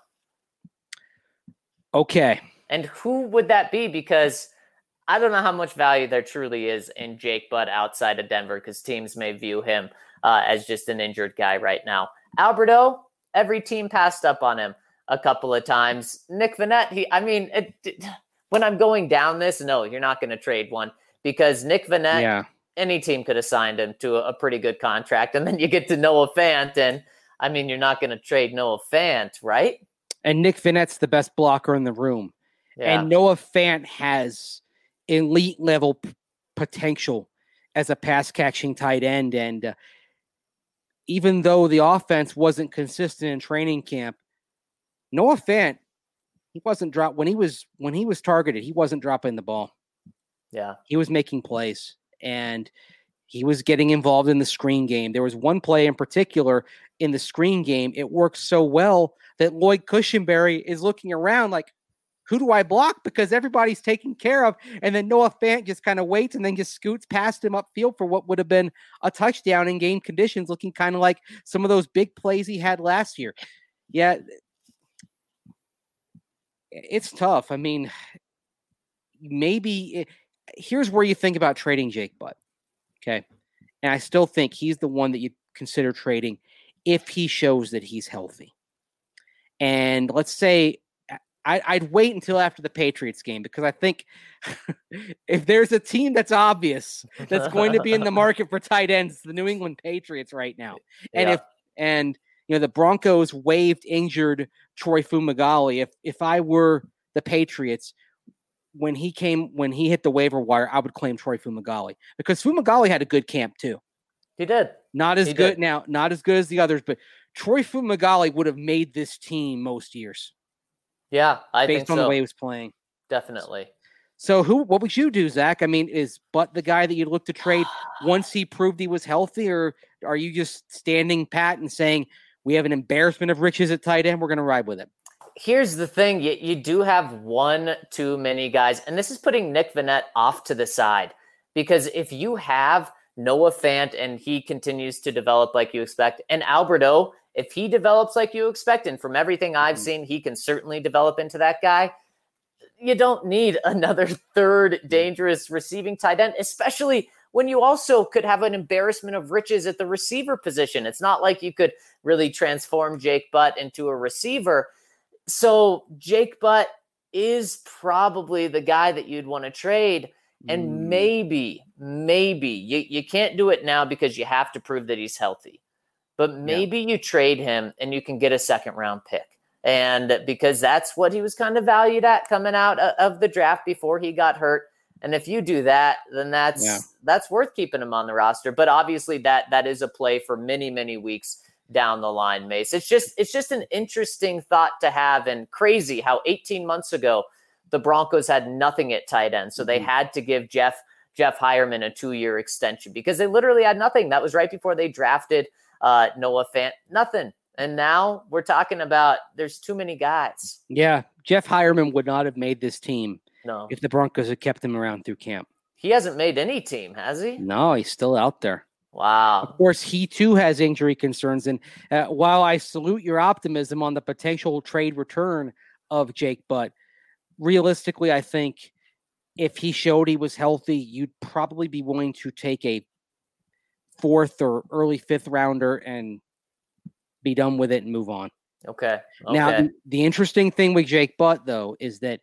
Okay. And who would that be? Because I don't know how much value there truly is in Jake Butt outside of Denver, because teams may view him uh, as just an injured guy right now. Alberto, every team passed up on him a couple of times. Nick Vannett, he, I mean, it, it, when I'm going down this, no, you're not going to trade one, because Nick Vannett, yeah. any team could have signed him to a, a pretty good contract. And then you get to Noah Fant, and I mean, you're not going to trade Noah Fant, right? And Nick Vannett's the best blocker in the room. Yeah. And Noah Fant has elite level p- potential as a pass catching tight end. And uh, even though the offense wasn't consistent in training camp, Noah Fant, he wasn't drop when he was, when he was targeted, he wasn't dropping the ball. Yeah. He was making plays and he was getting involved in the screen game. There was one play in particular in the screen game. It worked so well that Lloyd Cushenberry is looking around like, who do I block? Because everybody's taken care of. And then Noah Fant just kind of waits and then just scoots past him upfield for what would have been a touchdown in game conditions, looking kind of like some of those big plays he had last year. Yeah, it's tough. I mean, maybe it, here's where you think about trading Jake Butt. Okay. And I still think he's the one that you consider trading if he shows that he's healthy. And let's say, I'd wait until after the Patriots game, because I think if there's a team that's obvious that's going to be in the market for tight ends, it's the New England Patriots right now. And yeah. if and you know the Broncos waived injured Troy Fumagalli. If if I were the Patriots, when he came when he hit the waiver wire, I would claim Troy Fumagalli, because Fumagalli had a good camp too. He did. Not as he good did. now, not as good as the others, but Troy Fumagalli would have made this team most years. Yeah, I based think on so. the way he was playing. Definitely. So who? What would you do, Zach? I mean, is Butt the guy that you'd look to trade once he proved he was healthy, or are you just standing pat and saying we have an embarrassment of riches at tight end, we're going to ride with it? Here's the thing. You, you do have one too many guys, and this is putting Nick Vannett off to the side, because if you have Noah Fant and he continues to develop like you expect, and Alberto, if he develops like you expect, and from everything I've seen, he can certainly develop into that guy, you don't need another third dangerous receiving tight end, especially when you also could have an embarrassment of riches at the receiver position. It's not like you could really transform Jake Butt into a receiver. So Jake Butt is probably the guy that you'd want to trade. And mm. maybe, maybe you, you can't do it now because you have to prove that he's healthy. But maybe yeah. you trade him and you can get a second round pick. And because that's what he was kind of valued at coming out of the draft before he got hurt. And if you do that, then that's yeah. that's worth keeping him on the roster. But obviously that that is a play for many, many weeks down the line, Mace. It's just it's just an interesting thought to have, and crazy how eighteen months ago the Broncos had nothing at tight end. So mm-hmm. they had to give Jeff Jeff Hireman a two-year extension because they literally had nothing. That was right before they drafted Uh, Noah Fant, nothing. And now we're talking about there's too many guys. Yeah. Jeff Hireman would not have made this team No. if the Broncos had kept him around through camp. He hasn't made any team, has he? No, he's still out there. Wow. Of course, he too has injury concerns. And uh, while I salute your optimism on the potential trade return of Jake Butt, realistically, I think if he showed he was healthy, you'd probably be willing to take a fourth or early fifth rounder and be done with it and move on. Okay. okay. Now, the, the interesting thing with Jake Butt, though, is that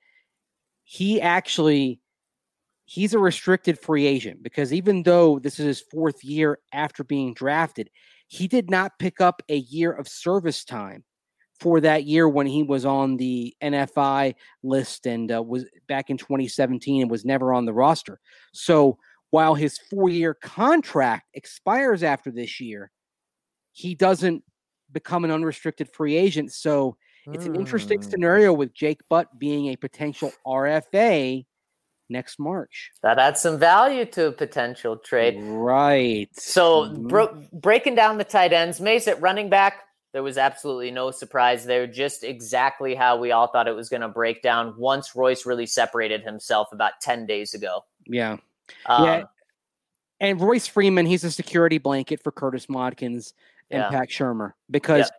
he actually he's a restricted free agent because even though this is his fourth year after being drafted, he did not pick up a year of service time for that year when he was on the N F I list and uh, was back in twenty seventeen and was never on the roster. So while his four-year contract expires after this year, he doesn't become an unrestricted free agent. So it's an interesting Mm. scenario with Jake Butt being a potential R F A next March. That adds some value to a potential trade. Right. So Mhm. bro- breaking down the tight ends, Mace at running back, there was absolutely no surprise there. Just exactly how we all thought it was going to break down once Royce really separated himself about ten days ago. Yeah. Um, yeah. And Royce Freeman, he's a security blanket for Curtis Modkins and Yeah. Pat Shermer because Yeah.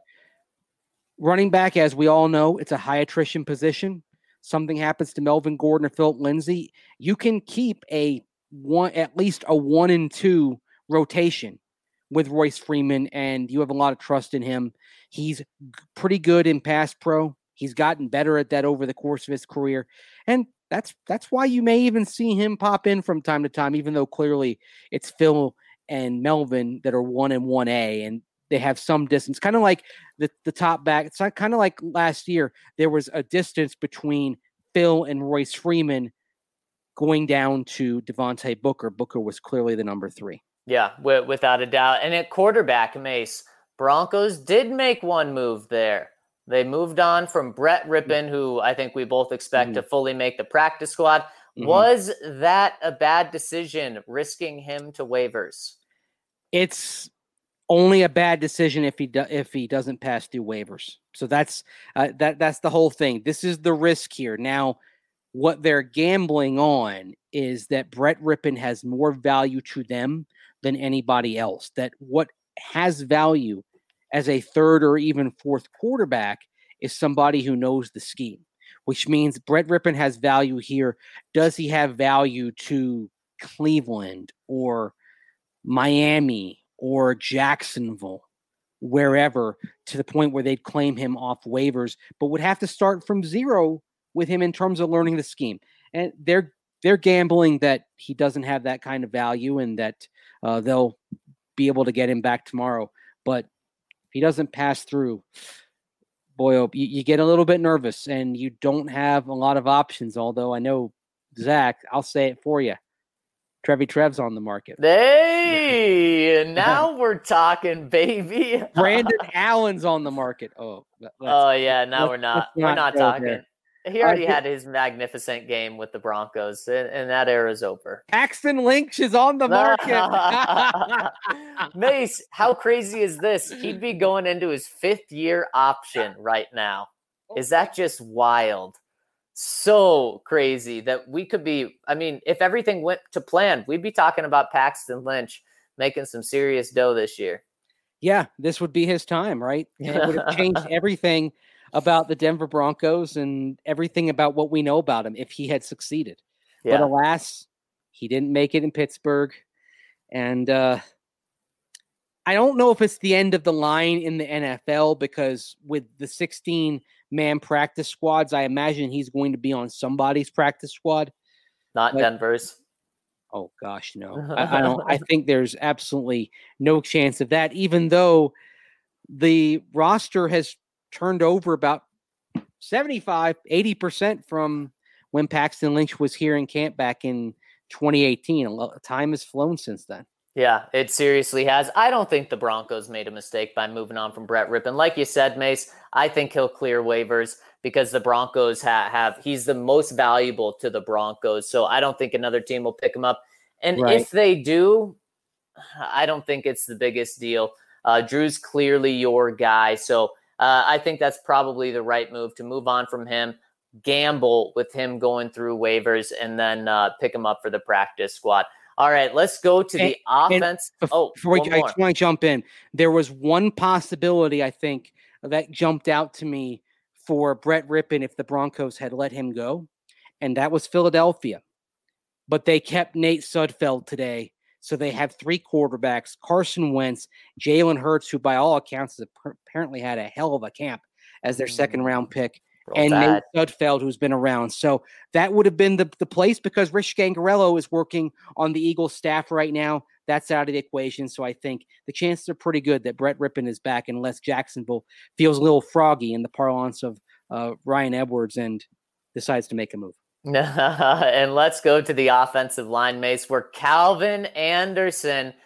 running back, as we all know, it's a high attrition position. Something happens to Melvin Gordon or Philip Lindsay, you can keep a one, at least a one and two rotation with Royce Freeman, and you have a lot of trust in him. He's g- pretty good in pass pro. He's gotten better at that over the course of his career, and that's that's why you may even see him pop in from time to time, even though clearly it's Phil and Melvin that are one and one A, and they have some distance, kind of like the, the top back. It's not kind of like last year. There was a distance between Phil and Royce Freeman going down to Devontae Booker. Booker was clearly the number three. Yeah, w- without a doubt. And at quarterback, Mace, Broncos did make one move there. They moved on from Brett Rippon, who I think we both expect Mhm. to fully make the practice squad. Mhm. Was that a bad decision, risking him to waivers? It's only a bad decision if he do, if he doesn't pass through waivers. So that's uh, that that's the whole thing. This is the risk here. Now, what they're gambling on is that Brett Rippon has more value to them than anybody else. That what has value as a third or even fourth quarterback is somebody who knows the scheme, which means Brett Rippon has value here. Does he have value to Cleveland or Miami or Jacksonville, wherever, to the point where they'd claim him off waivers, but would have to start from zero with him in terms of learning the scheme? And they're they're gambling that he doesn't have that kind of value and that uh, they'll be able to get him back tomorrow. But if he doesn't pass through, boy, oh, you, you get a little bit nervous and you don't have a lot of options. Although I know, Zach, I'll say it for you. Trevi Trev's on the market. Hey, now we're talking, baby. Brandon Allen's on the market. Oh, let's, Oh yeah, now let's- we're not let's we're not not go talking. there. He already Uh, had his magnificent game with the Broncos, and, and that era's over. Paxton Lynch is on the market. Mace, how crazy is this? He'd be going into his fifth year option right now. Is that just wild? So crazy that we could be, I mean, if everything went to plan, we'd be talking about Paxton Lynch making some serious dough this year. Yeah, this would be his time, right? And it would have changed everything about the Denver Broncos and everything about what we know about him if he had succeeded. Yeah. But alas, he didn't make it in Pittsburgh. And uh, I don't know if it's the end of the line in the N F L, because with the sixteen-man practice squads, I imagine he's going to be on somebody's practice squad. Not But- Denver's. Oh gosh, no. I, I don't. I think there's absolutely no chance of that, even though the roster has turned over about seventy-five, eighty percent from when Paxton Lynch was here in camp back in twenty eighteen. A lot, time has flown since then. Yeah, it seriously has. I don't think the Broncos made a mistake by moving on from Brett Rippon. Like you said, Mace, I think he'll clear waivers because the Broncos ha- have, he's the most valuable to the Broncos. So I don't think another team will pick him up. And Right. if they do, I don't think it's the biggest deal. Uh, Drew's clearly your guy. So uh, I think that's probably the right move to move on from him. gamble with him going through waivers and then uh, pick him up for the practice squad. All right, let's go to and, the offense. Oh, before I just want to jump in, there was one possibility, I think, that jumped out to me for Brett Rypien if the Broncos had let him go, and that was Philadelphia. But they kept Nate Sudfeld today, so they have three quarterbacks, Carson Wentz, Jalen Hurts, who by all accounts has apparently had a hell of a camp as their second-round pick, Roll and that. Nate Sudfeld, who's been around. So that would have been the, the place because Rich Gangarello is working on the Eagles staff right now. That's out of the equation. So I think the chances are pretty good that Brett Rypien is back unless Jacksonville feels a little froggy in the parlance of uh, Ryan Edwards and decides to make a move. And let's go to the offensive line, Mace, where Calvin Anderson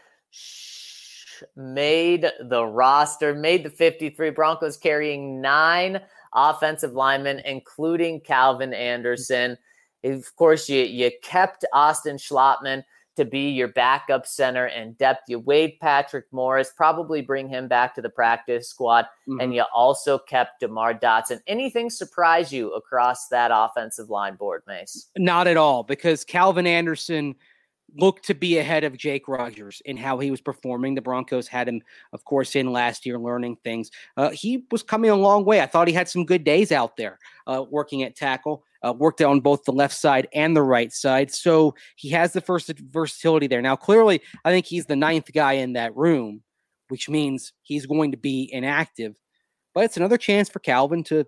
made the roster, made the fifty-three. Broncos carrying nine offensive linemen, including Calvin Anderson. Of course, you, you kept Austin Schlottman to be your backup center and depth. You waived Patrick Morris, probably bring him back to the practice squad. Mm-hmm. And you also kept DeMar Dotson. Anything surprise you across that offensive line board, Mace? Not at all, because Calvin Anderson looked to be ahead of Jake Rodgers in how he was performing. The Broncos had him, of course, in last year learning things. Uh, he was coming a long way. I thought he had some good days out there uh, working at tackle, uh, worked on both the left side and the right side. So he has the first versatility there. Now, clearly, I think he's the ninth guy in that room, which means he's going to be inactive. But it's another chance for Calvin to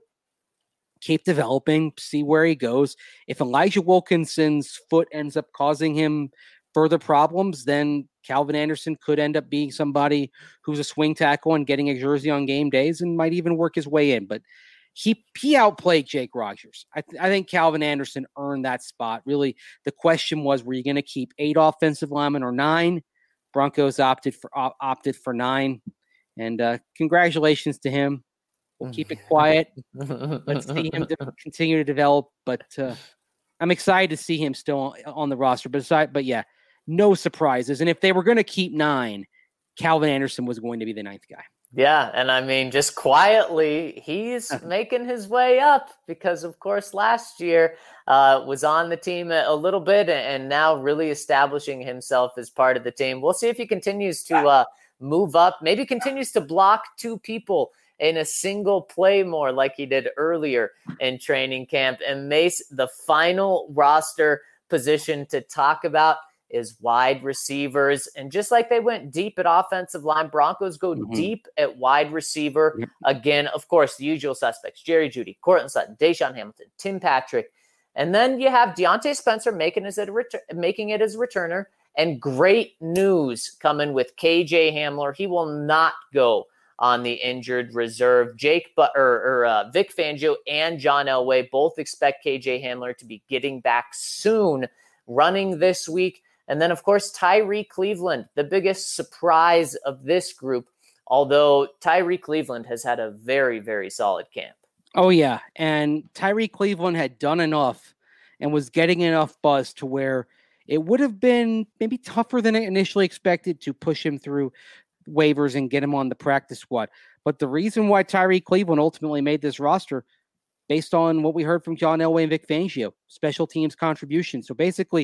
keep developing, see where he goes. If Elijah Wilkinson's foot ends up causing him further problems, then Calvin Anderson could end up being somebody who's a swing tackle and getting a jersey on game days and might even work his way in. But he he outplayed Jake Rodgers. I, th- I think Calvin Anderson earned that spot. Really, the question was, were you going to keep eight offensive linemen or nine? Broncos opted for op- opted for nine. And uh, congratulations to him. We'll keep it quiet. Let's see him de- continue to develop. But uh, I'm excited to see him still on the roster. But, aside, but yeah, no surprises. And if they were going to keep nine, Calvin Anderson was going to be the ninth guy. Yeah, and I mean, just quietly, he's making his way up because, of course, last year uh, was on the team a, a little bit and now really establishing himself as part of the team. We'll see if he continues to uh, move up, maybe continues to block two people in a single play more like he did earlier in training camp. And Mace, the final roster position to talk about is wide receivers. And just like they went deep at offensive line, Broncos go mm-hmm. deep at wide receiver. Yep. Again, of course, the usual suspects, Jerry Jeudy, Courtland Sutton, Deshaun Hamilton, Tim Patrick. And then you have Deontay Spencer making, his, making it as a returner. And great news coming with K J Hamler. He will not go on the injured reserve. Jake but or, or uh, Vic Fangio and John Elway both expect K J Hamler to be getting back soon, running this week. And then, of course, Tyree Cleveland, the biggest surprise of this group, although Tyree Cleveland has had a very, very solid camp. Oh, yeah. And Tyree Cleveland had done enough and was getting enough buzz to where it would have been maybe tougher than initially expected to push him through waivers and get him on the practice squad. But the reason why Tyree Cleveland ultimately made this roster, based on what we heard from John Elway and Vic Fangio, special teams contribution. So basically,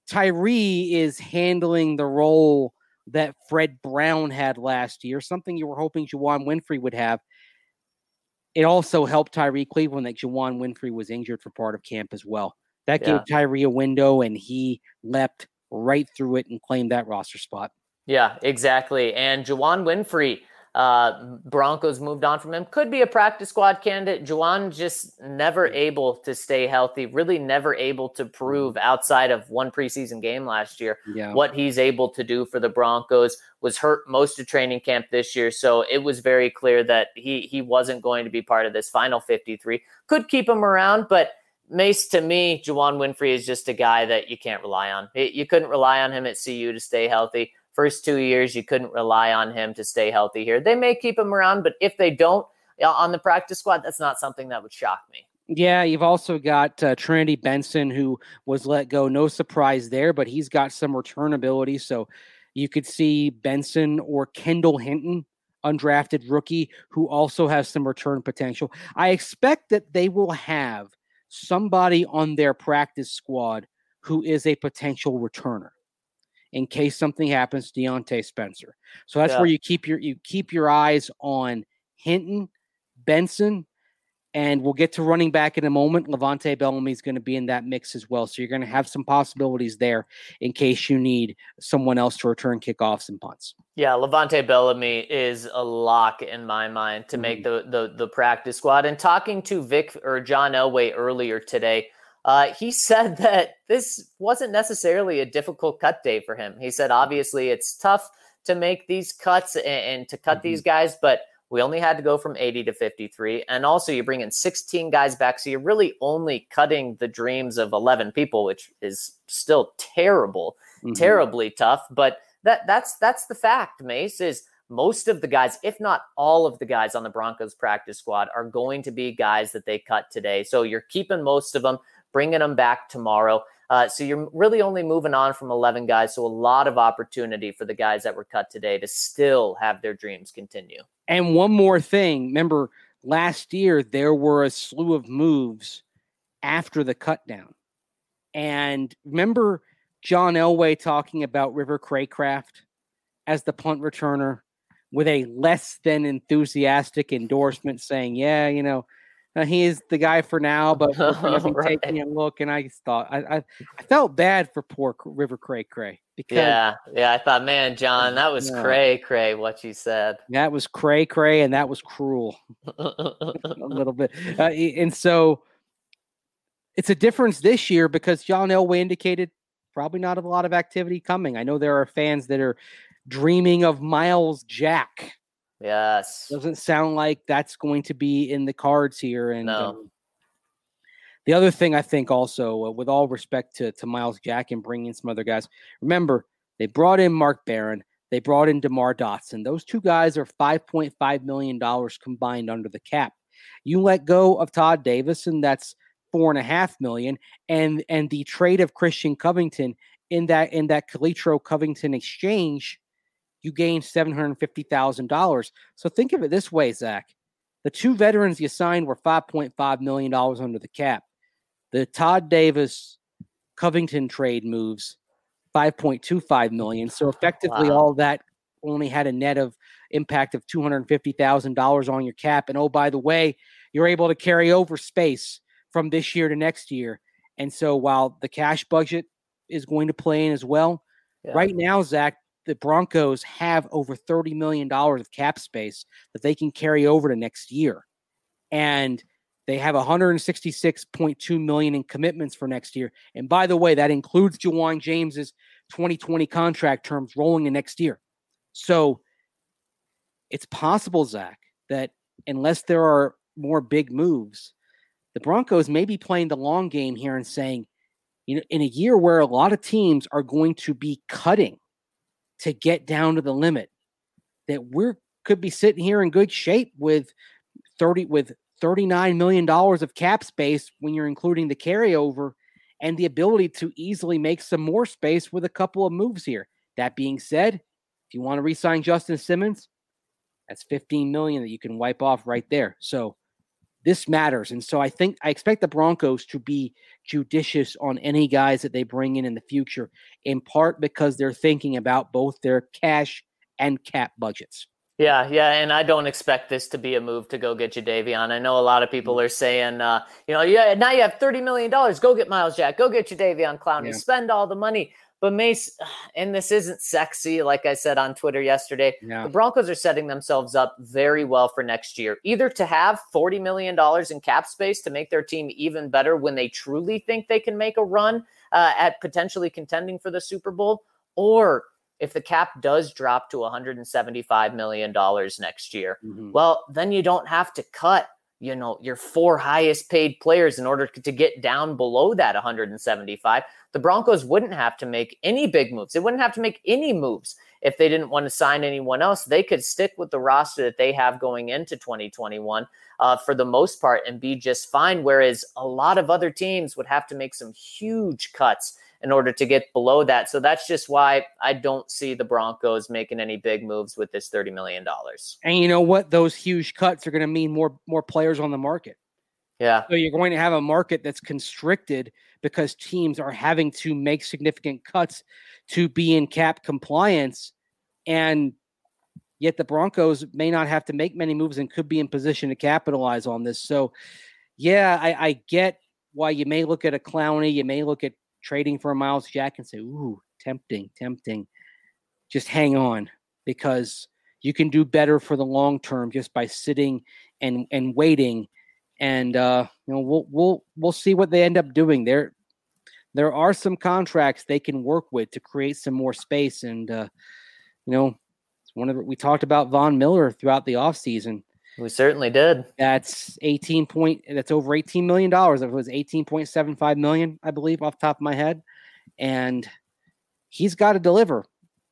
Tyree is handling the role that Fred Brown had last year, something you were hoping Juwann Winfrey would have. It also helped Tyree Cleveland that Juwann Winfrey was injured for part of camp as well. That yeah. gave Tyree a window, and he leapt right through it and claimed that roster spot. Yeah, exactly. And Juwann Winfrey, uh, Broncos moved on from him. Could be a practice squad candidate. Juwann just never able to stay healthy, really never able to prove outside of one preseason game last year yeah. what he's able to do for the Broncos. Was hurt most of training camp this year, so it was very clear that he he wasn't going to be part of this final fifty-three. Could keep him around, but Mace, to me, Juwann Winfrey is just a guy that you can't rely on. You couldn't rely on him at C U to stay healthy. First two years, you couldn't rely on him to stay healthy here. They may keep him around, but if they don't on the practice squad, that's not something that would shock me. Yeah, you've also got uh, Trinity Benson, who was let go. No surprise there, but he's got some return ability. So you could see Benson or Kendall Hinton, undrafted rookie, who also has some return potential. I expect that they will have somebody on their practice squad who is a potential returner in case something happens to Deontay Spencer. So that's yeah. where you keep your you keep your eyes on Hinton, Benson, and we'll get to running back in a moment. Levante Bellamy is going to be in that mix as well. So you're going to have some possibilities there in case you need someone else to return kickoffs and punts. Yeah, Levante Bellamy is a lock in my mind to mm-hmm. make the, the the practice squad. And talking to Vic or John Elway earlier today, uh, he said that this wasn't necessarily a difficult cut day for him. He said, obviously, it's tough to make these cuts and, and to cut mm-hmm. these guys, but we only had to go from eighty to fifty-three. And also you bring in sixteen guys back. So you're really only cutting the dreams of eleven people, which is still terrible, mm-hmm. terribly tough. But that that's that's the fact, Mace, is most of the guys, if not all of the guys on the Broncos practice squad, are going to be guys that they cut today. So you're keeping most of them, bringing them back tomorrow. Uh, so you're really only moving on from eleven guys. So a lot of opportunity for the guys that were cut today to still have their dreams continue. And one more thing, remember last year, there were a slew of moves after the cut down. And remember John Elway talking about River Craycraft as the punt returner with a less than enthusiastic endorsement saying, yeah, you know, Uh, he is the guy for now, but we're going to be right. taking a look. And I thought I, I I felt bad for poor River Cray Cray because yeah, yeah. I thought, man, John, that was yeah. cray cray what you said. That was cray cray, and that was cruel a little bit. Uh, and so it's a difference this year because John Elway indicated probably not a lot of activity coming. I know there are fans that are dreaming of Miles Jack. Yes. Doesn't sound like that's going to be in the cards here. And no. um, the other thing I think also, uh, with all respect to, to Miles Jack and bringing in some other guys, remember, they brought in Mark Barron. They brought in DeMar Dotson. Those two guys are five point five million dollars combined under the cap. You let go of Todd Davis, and that's four and a half million. And and the trade of Christian Covington in that in that Calitro Covington exchange, you gain seven hundred fifty thousand dollars. So think of it this way, Zach. The two veterans you signed were five point five million dollars under the cap. The Todd Davis Covington trade moves five point two five million dollars. So effectively wow. all that only had a net of impact of two hundred fifty thousand dollars on your cap. And oh, by the way, you're able to carry over space from this year to next year. And so while the cash budget is going to play in as well, yeah. right now, Zach, the Broncos have over thirty million dollars of cap space that they can carry over to next year. And they have one hundred sixty-six point two million dollars in commitments for next year. And by the way, that includes Jawan James's twenty twenty contract terms rolling in next year. So it's possible, Zach, that unless there are more big moves, the Broncos may be playing the long game here and saying, you know, in a year where a lot of teams are going to be cutting to get down to the limit, that we're could be sitting here in good shape with thirty with thirty-nine million dollars of cap space when you're including the carryover and the ability to easily make some more space with a couple of moves here. That being said, if you want to re-sign Justin Simmons, that's fifteen million dollars that you can wipe off right there. So this matters. And so I think I expect the Broncos to be judicious on any guys that they bring in in the future, in part because they're thinking about both their cash and cap budgets. Yeah, yeah, and I don't expect this to be a move to go get Jadeveon. I know a lot of people are saying, uh, you know, yeah, now you have thirty million dollars. Go get Miles Jack. Go get Jadeveon Clowney. Yeah. Spend all the money. But Mace, and this isn't sexy, like I said on Twitter yesterday, yeah. the Broncos are setting themselves up very well for next year, either to have forty million dollars in cap space to make their team even better when they truly think they can make a run uh, at potentially contending for the Super Bowl, or if the cap does drop to one hundred seventy-five million dollars next year, mm-hmm. well, then you don't have to cut, you know, your four highest paid players in order to get down below that one hundred seventy-five. The Broncos wouldn't have to make any big moves. They wouldn't have to make any moves if they didn't want to sign anyone else. They could stick with the roster that they have going into twenty twenty-one uh, for the most part and be just fine. Whereas a lot of other teams would have to make some huge cuts in order to get below that. So that's just why I don't see the Broncos making any big moves with this thirty million dollars. And you know what? Those huge cuts are going to mean more more players on the market. Yeah. So you're going to have a market that's constricted because teams are having to make significant cuts to be in cap compliance. And yet the Broncos may not have to make many moves and could be in position to capitalize on this. So, yeah, I, I get why you may look at a Clowney. You may look at trading for a Miles Jack and say, ooh, tempting, tempting. Just hang on, because you can do better for the long term just by sitting and, and waiting. And, uh, you know, we'll, we'll, we'll see what they end up doing there. There are some contracts they can work with to create some more space. And, uh, you know, it's one of the, we talked about Von Miller throughout the offseason. We certainly did. That's eighteen point. That's over eighteen million dollars. It was eighteen point seven five million, I believe, off the top of my head. And he's got to deliver.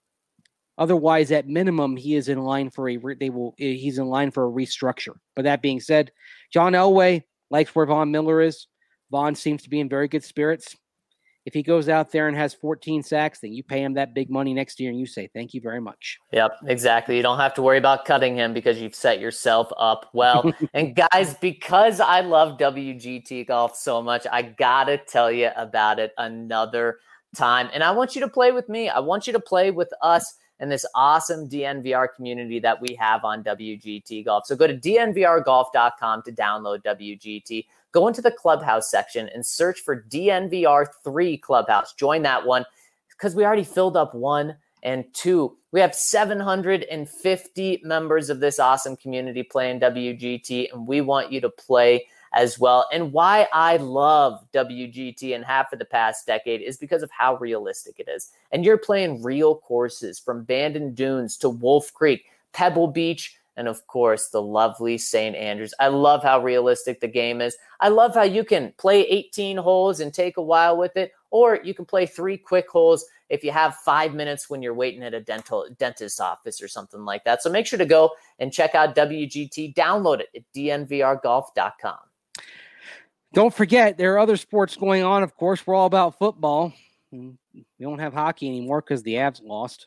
Otherwise, at minimum, he is in line for a. They will. He's in line for a restructure. But that being said, John Elway likes where Von Miller is. Von seems to be in very good spirits. If he goes out there and has fourteen sacks, then you pay him that big money next year and you say, thank you very much. Yep, exactly. You don't have to worry about cutting him because you've set yourself up well. And guys, because I love W G T Golf so much, I got to tell you about it another time. And I want you to play with me. I want you to play with us and this awesome D N V R community that we have on W G T Golf. So go to D N V R golf dot com to download W G T. Go into the Clubhouse section and search for D N V R three Clubhouse. Join that one because we already filled up one and two. We have seven hundred fifty members of this awesome community playing W G T, and we want you to play as well. And why I love W G T and have for the past decade is because of how realistic it is. And you're playing real courses from Bandon Dunes to Wolf Creek, Pebble Beach, and of course, the lovely Saint Andrews. I love how realistic the game is. I love how you can play eighteen holes and take a while with it, or you can play three quick holes if you have five minutes when you're waiting at a dental dentist's office or something like that. So make sure to go and check out W G T. Download it at D N V R golf dot com. Don't forget, there are other sports going on. Of course, we're all about football. We don't have hockey anymore because the Avs lost.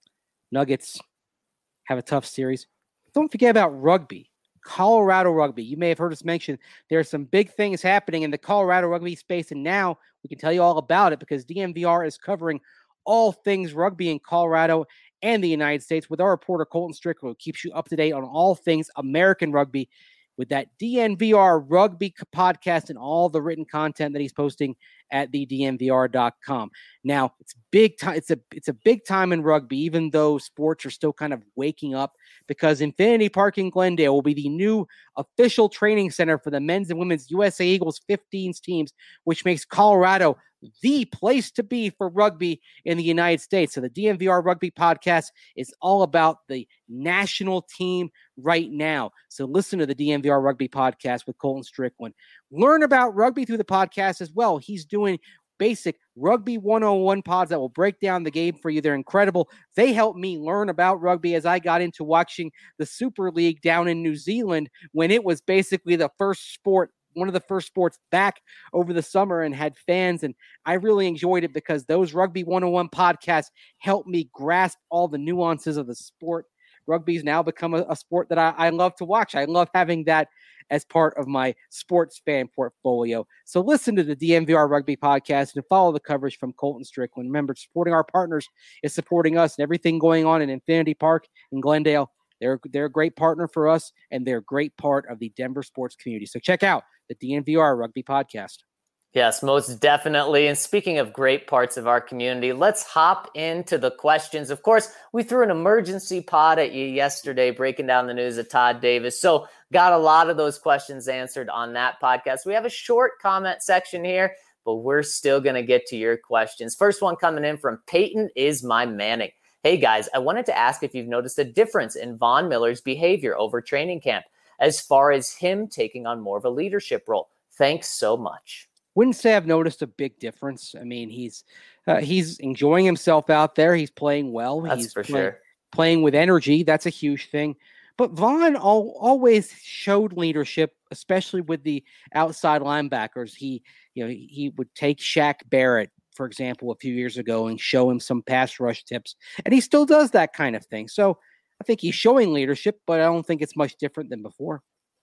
Nuggets have a tough series. Don't forget about rugby, Colorado rugby. You may have heard us mention there are some big things happening in the Colorado rugby space, and now we can tell you all about it because D N V R is covering all things rugby in Colorado and the United States with our reporter Colton Strickland, who keeps you up to date on all things American rugby with that D N V R rugby podcast and all the written content that he's posting at the D N V R dot com. Now, it's big time. It's a it's a big time in rugby, even though sports are still kind of waking up, because Infinity Park in Glendale will be the new official training center for the men's and women's U S A Eagles fifteen teams, which makes Colorado the place to be for rugby in the United States. So the D N V R Rugby Podcast is all about the national team right now. So listen to the D N V R Rugby Podcast with Colton Strickland. Learn about rugby through the podcast as well. He's doing basic Rugby one oh one pods that will break down the game for you. They're incredible. They helped me learn about rugby as I got into watching the Super League down in New Zealand when it was basically the first sport, one of the first sports back over the summer and had fans. And I really enjoyed it because those Rugby one oh one podcasts helped me grasp all the nuances of the sport. Rugby's now become a, a sport that I, I love to watch. I love having that as part of my sports fan portfolio. So listen to the D N V R Rugby Podcast and follow the coverage from Colton Strickland. Remember, supporting our partners is supporting us, and everything going on in Infinity Park in Glendale. They're, they're a great partner for us, and they're a great part of the Denver sports community. So check out the D N V R Rugby Podcast. Yes, most definitely. And speaking of great parts of our community, let's hop into the questions. Of course, we threw an emergency pod at you yesterday, breaking down the news of Todd Davis. So got a lot of those questions answered on that podcast. We have a short comment section here, but we're still going to get to your questions. First one coming in from Peyton is my Manning. Hey guys, I wanted to ask if you've noticed a difference in Von Miller's behavior over training camp as far as him taking on more of a leadership role. Thanks so much. Wouldn't say I've noticed a big difference. I mean, he's uh, he's enjoying himself out there. He's playing well. That's he's for play, sure. Playing with energy. That's a huge thing. But Von al- always showed leadership, especially with the outside linebackers. He, you know, he would take Shaq Barrett, for example, a few years ago and show him some pass rush tips. And he still does that kind of thing. So I think he's showing leadership, but I don't think it's much different than before.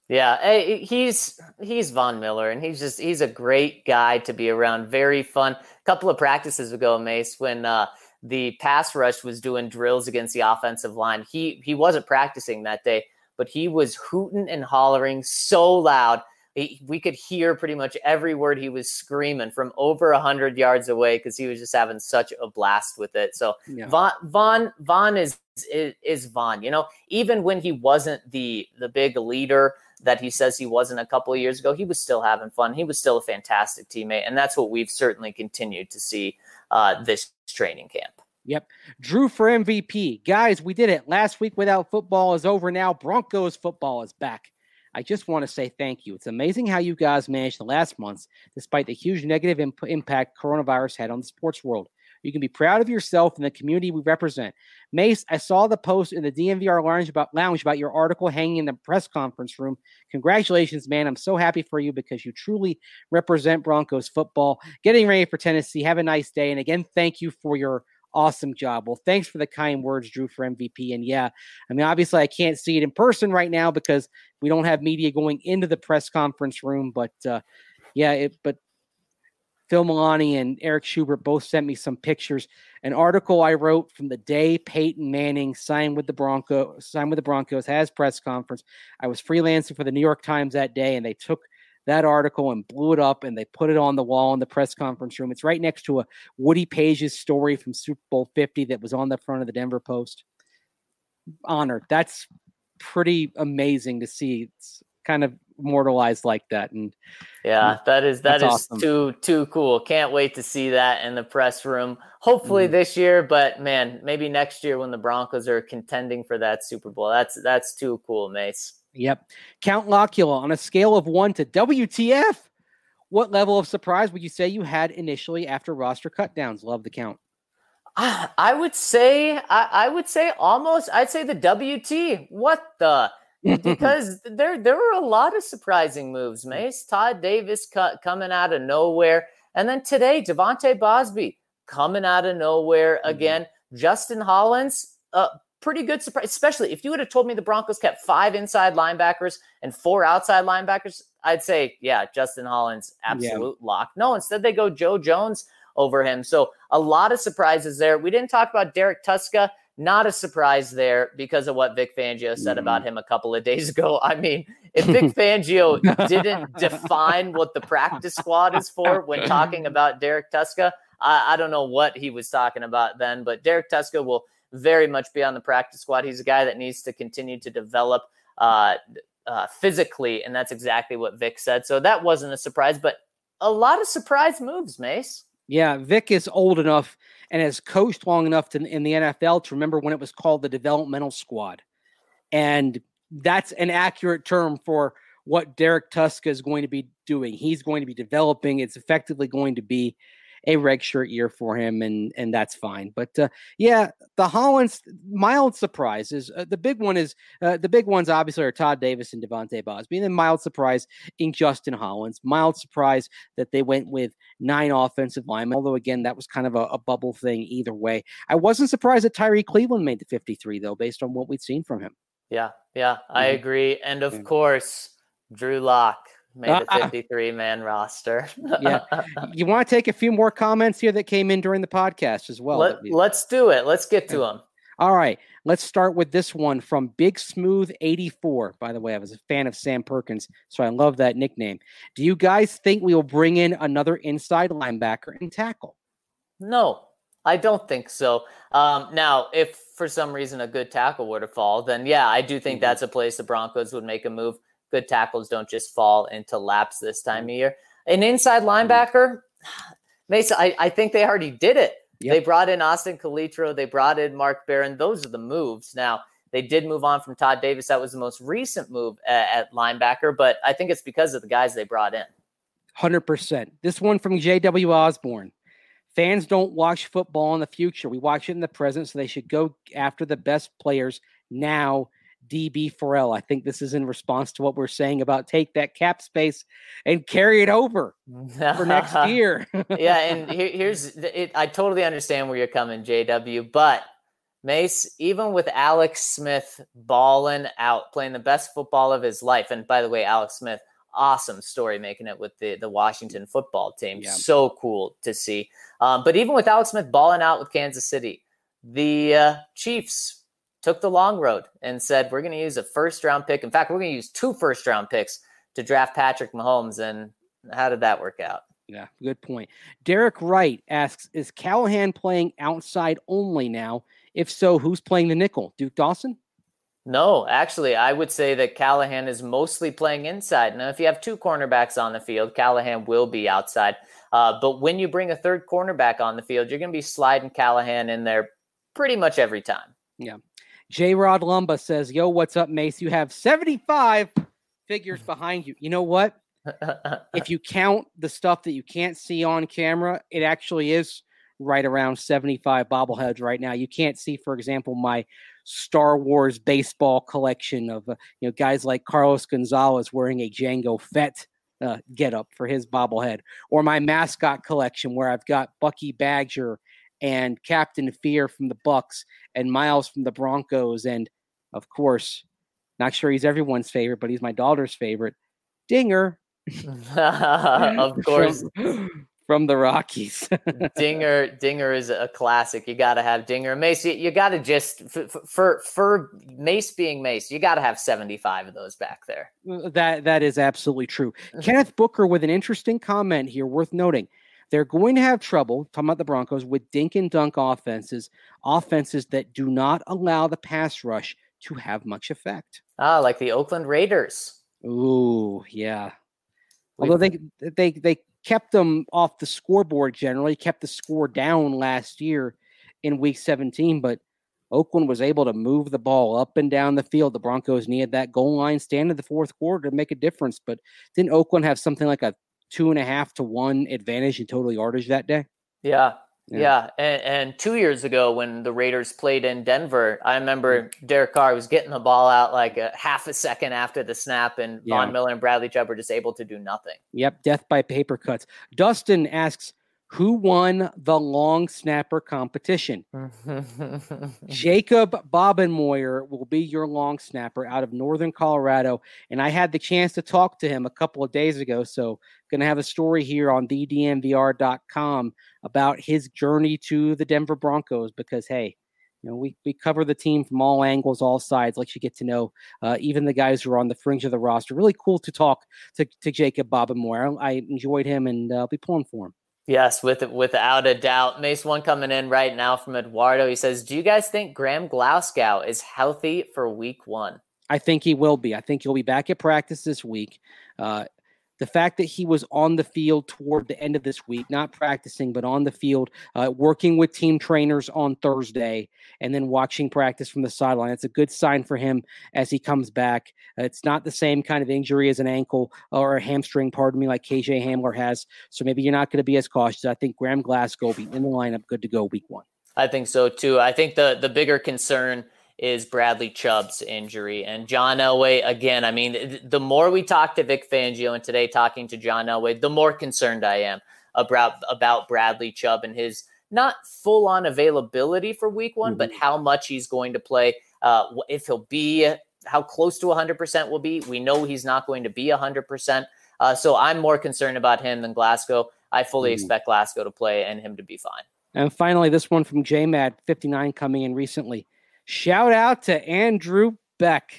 Yeah, hey, he's he's Von Miller, and he's just he's a great guy to be around. Very fun. A couple of practices ago, Mace, when uh, the pass rush was doing drills against the offensive line, he he wasn't practicing that day, but he was hooting and hollering so loud. He, we could hear pretty much every word he was screaming from over a hundred yards away because he was just having such a blast with it. So yeah. Von Von Von is, is is Von. You know, even when he wasn't the the big leader that he says he wasn't a couple of years ago, he was still having fun. He was still a fantastic teammate, and that's what we've certainly continued to see uh, this training camp. Yep. Drew for M V P. Guys, we did it. Last week without football is over now. Broncos football is back. I just want to say thank you. It's amazing how you guys managed the last months, despite the huge negative imp- impact coronavirus had on the sports world. You can be proud of yourself and the community we represent. Mace, I saw the post in the D N V R lounge about, lounge about your article hanging in the press conference room. Congratulations, man. I'm so happy for you because you truly represent Broncos football. Getting ready for Tennessee. Have a nice day. And again, thank you for your awesome job. Well, thanks for the kind words, Drew, for M V P. And yeah, I mean, obviously I can't see it in person right now because we don't have media going into the press conference room, but uh, yeah, it, but Phil Milani and Eric Schubert both sent me some pictures. An article I wrote from the day Peyton Manning signed with the Broncos, signed with the Broncos, has press conference. I was freelancing for the New York Times that day, and they took that article and blew it up, and they put it on the wall in the press conference room. It's right next to a Woody Page's story from Super Bowl fifty that was on the front of the Denver Post. Honored. That's pretty amazing to see. It's kind of immortalized like that. And yeah, that is that is awesome. too too cool. Can't wait to see that in the press room. Hopefully mm. this year, but man, maybe next year when the Broncos are contending for that Super Bowl. That's that's too cool, Mace. Yep. Count Locula, on a scale of one to W T F, what level of surprise would you say you had initially after roster cutdowns? Love the count. I would say, I, I would say almost, I'd say the W T. What the? Because there there were a lot of surprising moves, Mace. Todd Davis cut, coming out of nowhere. And then today, Devontae Bosby coming out of nowhere again. Mm-hmm. Justin Hollins, uh, pretty good surprise, especially if you would have told me the Broncos kept five inside linebackers and four outside linebackers, I'd say, yeah, Justin Hollins, absolute yeah. lock. No, instead they go Joe Jones over him. So a lot of surprises there. We didn't talk about Derek Tuszka. Not a surprise there because of what Vic Fangio said mm. about him a couple of days ago. I mean, if Vic Fangio didn't define what the practice squad is for when talking about Derek Tuszka, I, I don't know what he was talking about then, but Derek Tuszka will very much be on the practice squad. He's a guy that needs to continue to develop uh, uh, physically, and that's exactly what Vic said. So that wasn't a surprise, but a lot of surprise moves, Mace. Yeah, Vic is old enough and has coached long enough to, in the N F L to remember when it was called the developmental squad. And that's an accurate term for what Derek Tuszka is going to be doing. He's going to be developing. It's effectively going to be a redshirt year for him, and and that's fine. But uh, yeah, the Hollins mild surprises. Uh, the big one is uh, the big ones obviously are Todd Davis and Devontae Bosby, and then mild surprise in Justin Hollins. Mild surprise that they went with nine offensive linemen. Although again, that was kind of a, a bubble thing either way. I wasn't surprised that Tyree Cleveland made the fifty-three though, based on what we'd seen from him. Yeah, yeah, I mm-hmm. agree. And of mm-hmm. course, Drew Lock made the fifty-three man roster. Yeah. You want to take a few more comments here that came in during the podcast as well? Let, let's do it. Let's get to them. All right. Let's start with this one from Big Smooth eighty-four. By the way, I was a fan of Sam Perkins, so I love that nickname. Do you guys think we will bring in another inside linebacker and tackle? No, I don't think so. Um, now, if for some reason a good tackle were to fall, then yeah, I do think mm-hmm. that's a place the Broncos would make a move. Good tackles don't just fall into laps this time of year. An inside linebacker, Mesa, I, I think they already did it. Yep. They brought in Austin Calitro. They brought in Mark Barron. Those are the moves. Now, they did move on from Todd Davis. That was the most recent move at, at linebacker, but I think it's because of the guys they brought in. one hundred percent. This one from J W Osborne. Fans don't watch football in the future. We watch it in the present, so they should go after the best players now. D B Farrell. I think this is in response to what we're saying about take that cap space and carry it over for next year. Yeah, and here, here's it. I totally understand where you're coming, J W, but Mace, even with Alex Smith balling out, playing the best football of his life. And by the way, Alex Smith, awesome story making it with the, the Washington football team. Yeah. So cool to see. Um, but even with Alex Smith balling out with Kansas City, the uh, Chiefs took the long road and said, we're going to use a first round pick. In fact, we're going to use two first round picks to draft Patrick Mahomes. And how did that work out? Yeah, good point. Derek Wright asks, is Callahan playing outside only now? If so, who's playing the nickel? Duke Dawson? No, actually, I would say that Callahan is mostly playing inside. Now, if you have two cornerbacks on the field, Callahan will be outside. Uh, but when you bring a third cornerback on the field, you're going to be sliding Callahan in there pretty much every time. Yeah. J-Rod Lumba says, yo, what's up, Mace? You have seventy-five figures behind you. You know what? If you count the stuff that you can't see on camera, it actually is right around seventy-five bobbleheads right now. You can't see, for example, my Star Wars baseball collection of uh, you know guys like Carlos Gonzalez wearing a Jango Fett uh, getup for his bobblehead, or my mascot collection where I've got Bucky Badger and Captain Fear from the Bucks and Miles from the Broncos, and of course, not sure he's everyone's favorite, but he's my daughter's favorite, Dinger. Of course. From, from the Rockies. Dinger Dinger is a classic. You got to have Dinger. Mace, you, you got to just, for, for for Mace being Mace, you got to have seventy-five of those back there. That That is absolutely true. Kenneth Booker with an interesting comment here worth noting. They're going to have trouble, talking about the Broncos, with dink and dunk offenses, offenses that do not allow the pass rush to have much effect. Ah, like the Oakland Raiders. Ooh, yeah. Although they they they kept them off the scoreboard generally, kept the score down last year in week seventeen, but Oakland was able to move the ball up and down the field. The Broncos needed that goal line stand in the fourth quarter to make a difference, but didn't Oakland have something like a two and a half to one advantage in total yardage that day? Yeah. Yeah. yeah. And, and two years ago when the Raiders played in Denver, I remember Derek Carr was getting the ball out like a half a second after the snap, and yeah. Von Miller and Bradley Chubb were just able to do nothing. Yep. Death by paper cuts. Dustin asks, who won the long snapper competition? Jacob Bobenmoyer will be your long snapper out of Northern Colorado. And I had the chance to talk to him a couple of days ago. So going to have a story here on the D N V R dot com about his journey to the Denver Broncos, because, hey, you know, we, we cover the team from all angles, all sides, let you get to know uh, even the guys who are on the fringe of the roster. Really cool to talk to, to Jacob Bobenmoyer. I, I enjoyed him, and uh, I'll be pulling for him. Yes, with without a doubt. Mace, one coming in right now from Eduardo. He says, do you guys think Graham Glasgow is healthy for week one? I think he will be. I think he'll be back at practice this week. Uh, the fact that he was on the field toward the end of this week, not practicing, but on the field, uh, working with team trainers on Thursday, and then watching practice from the sideline, it's a good sign for him as he comes back. Uh, it's not the same kind of injury as an ankle or a hamstring, pardon me, like K J Hamler has. So maybe you're not going to be as cautious. I think Graham Glasgow will be in the lineup, good to go week one. I think so too. I think the the bigger concern is Bradley Chubb's injury. And John Elway, again, I mean, the more we talk to Vic Fangio, and today talking to John Elway, the more concerned I am about, about Bradley Chubb and his not full-on availability for week one, mm-hmm. but how much he's going to play, uh, if he'll be, how close to one hundred percent will be. We know he's not going to be one hundred percent. Uh, so I'm more concerned about him than Glasgow. I fully mm-hmm. expect Glasgow to play and him to be fine. And finally, this one from J M A D fifty-nine coming in recently. Shout out to Andrew Beck.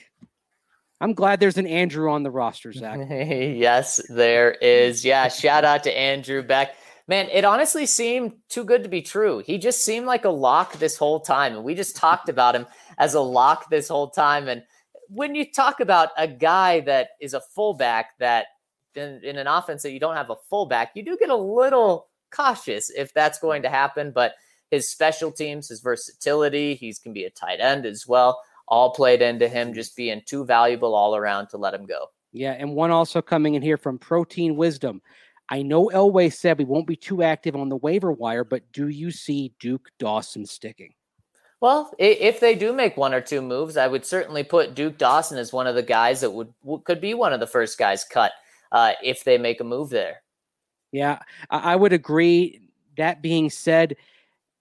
I'm glad there's an Andrew on the roster, Zach. Yes, there is. Yeah, shout out to Andrew Beck. Man, it honestly seemed too good to be true. He just seemed like a lock this whole time. And we just talked about him as a lock this whole time. And when you talk about a guy that is a fullback that in, in an offense that you don't have a fullback, you do get a little cautious if that's going to happen. But his special teams, his versatility, he can be a tight end as well, all played into him just being too valuable all around to let him go. Yeah, and one also coming in here from Protein Wisdom. I know Elway said we won't be too active on the waiver wire, but do you see Duke Dawson sticking? Well, if they do make one or two moves, I would certainly put Duke Dawson as one of the guys that would could be one of the first guys cut uh, if they make a move there. Yeah, I would agree. That being said,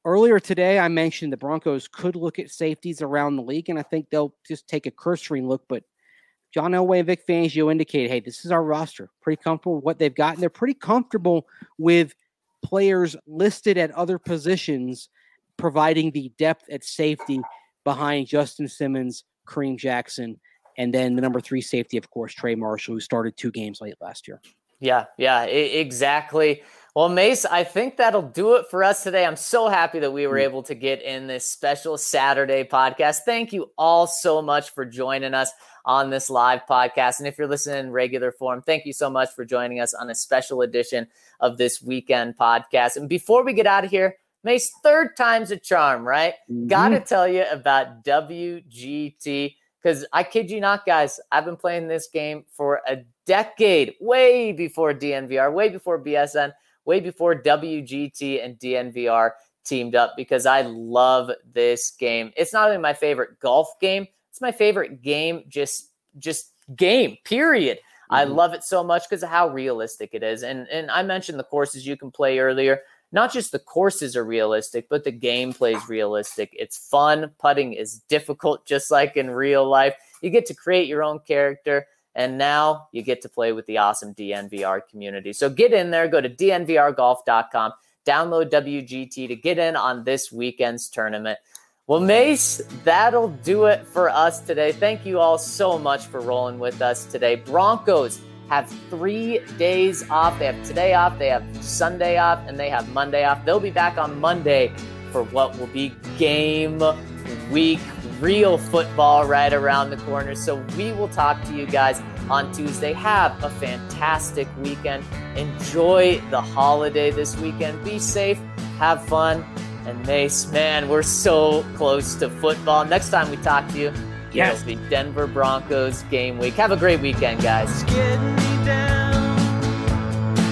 earlier today, I mentioned the Broncos could look at safeties around the league, and I think they'll just take a cursory look. But John Elway and Vic Fangio indicate, hey, this is our roster. Pretty comfortable with what they've got, and they're pretty comfortable with players listed at other positions, providing the depth at safety behind Justin Simmons, Kareem Jackson, and then the number three safety, of course, Trey Marshall, who started two games late last year. Yeah, yeah, I- exactly. Well, Mace, I think that'll do it for us today. I'm so happy that we were able to get in this special Saturday podcast. Thank you all so much for joining us on this live podcast. And if you're listening in regular form, thank you so much for joining us on a special edition of this weekend podcast. And before we get out of here, Mace, third time's a charm, right? Mm-hmm. Got to tell you about W G T, because I kid you not, guys, I've been playing this game for a decade, way before D N V R, way before B S N, way before W G T and D N V R teamed up, because I love this game. It's not only my favorite golf game, it's my favorite game, just just game, period. Mm-hmm. I love it so much because of how realistic it is. And, and I mentioned the courses you can play earlier. Not just the courses are realistic, but the gameplay is realistic. It's fun. Putting is difficult, just like in real life. You get to create your own character. And now you get to play with the awesome D N V R community. So get in there, go to D N V R golf dot com, download W G T to get in on this weekend's tournament. Well, Mace, that'll do it for us today. Thank you all so much for rolling with us today. Broncos have three days off. They have today off, they have Sunday off, and they have Monday off. They'll be back on Monday for what will be game week. Real football right around the corner. So we will talk to you guys on Tuesday. Have a fantastic weekend. Enjoy the holiday this weekend. Be safe. Have fun. And Mace, man, we're so close to football. Next time we talk to you, yes, it'll be Denver Broncos game week. Have a great weekend, guys. It's getting me down,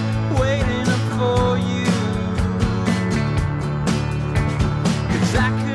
waiting up for you. 'Cause I could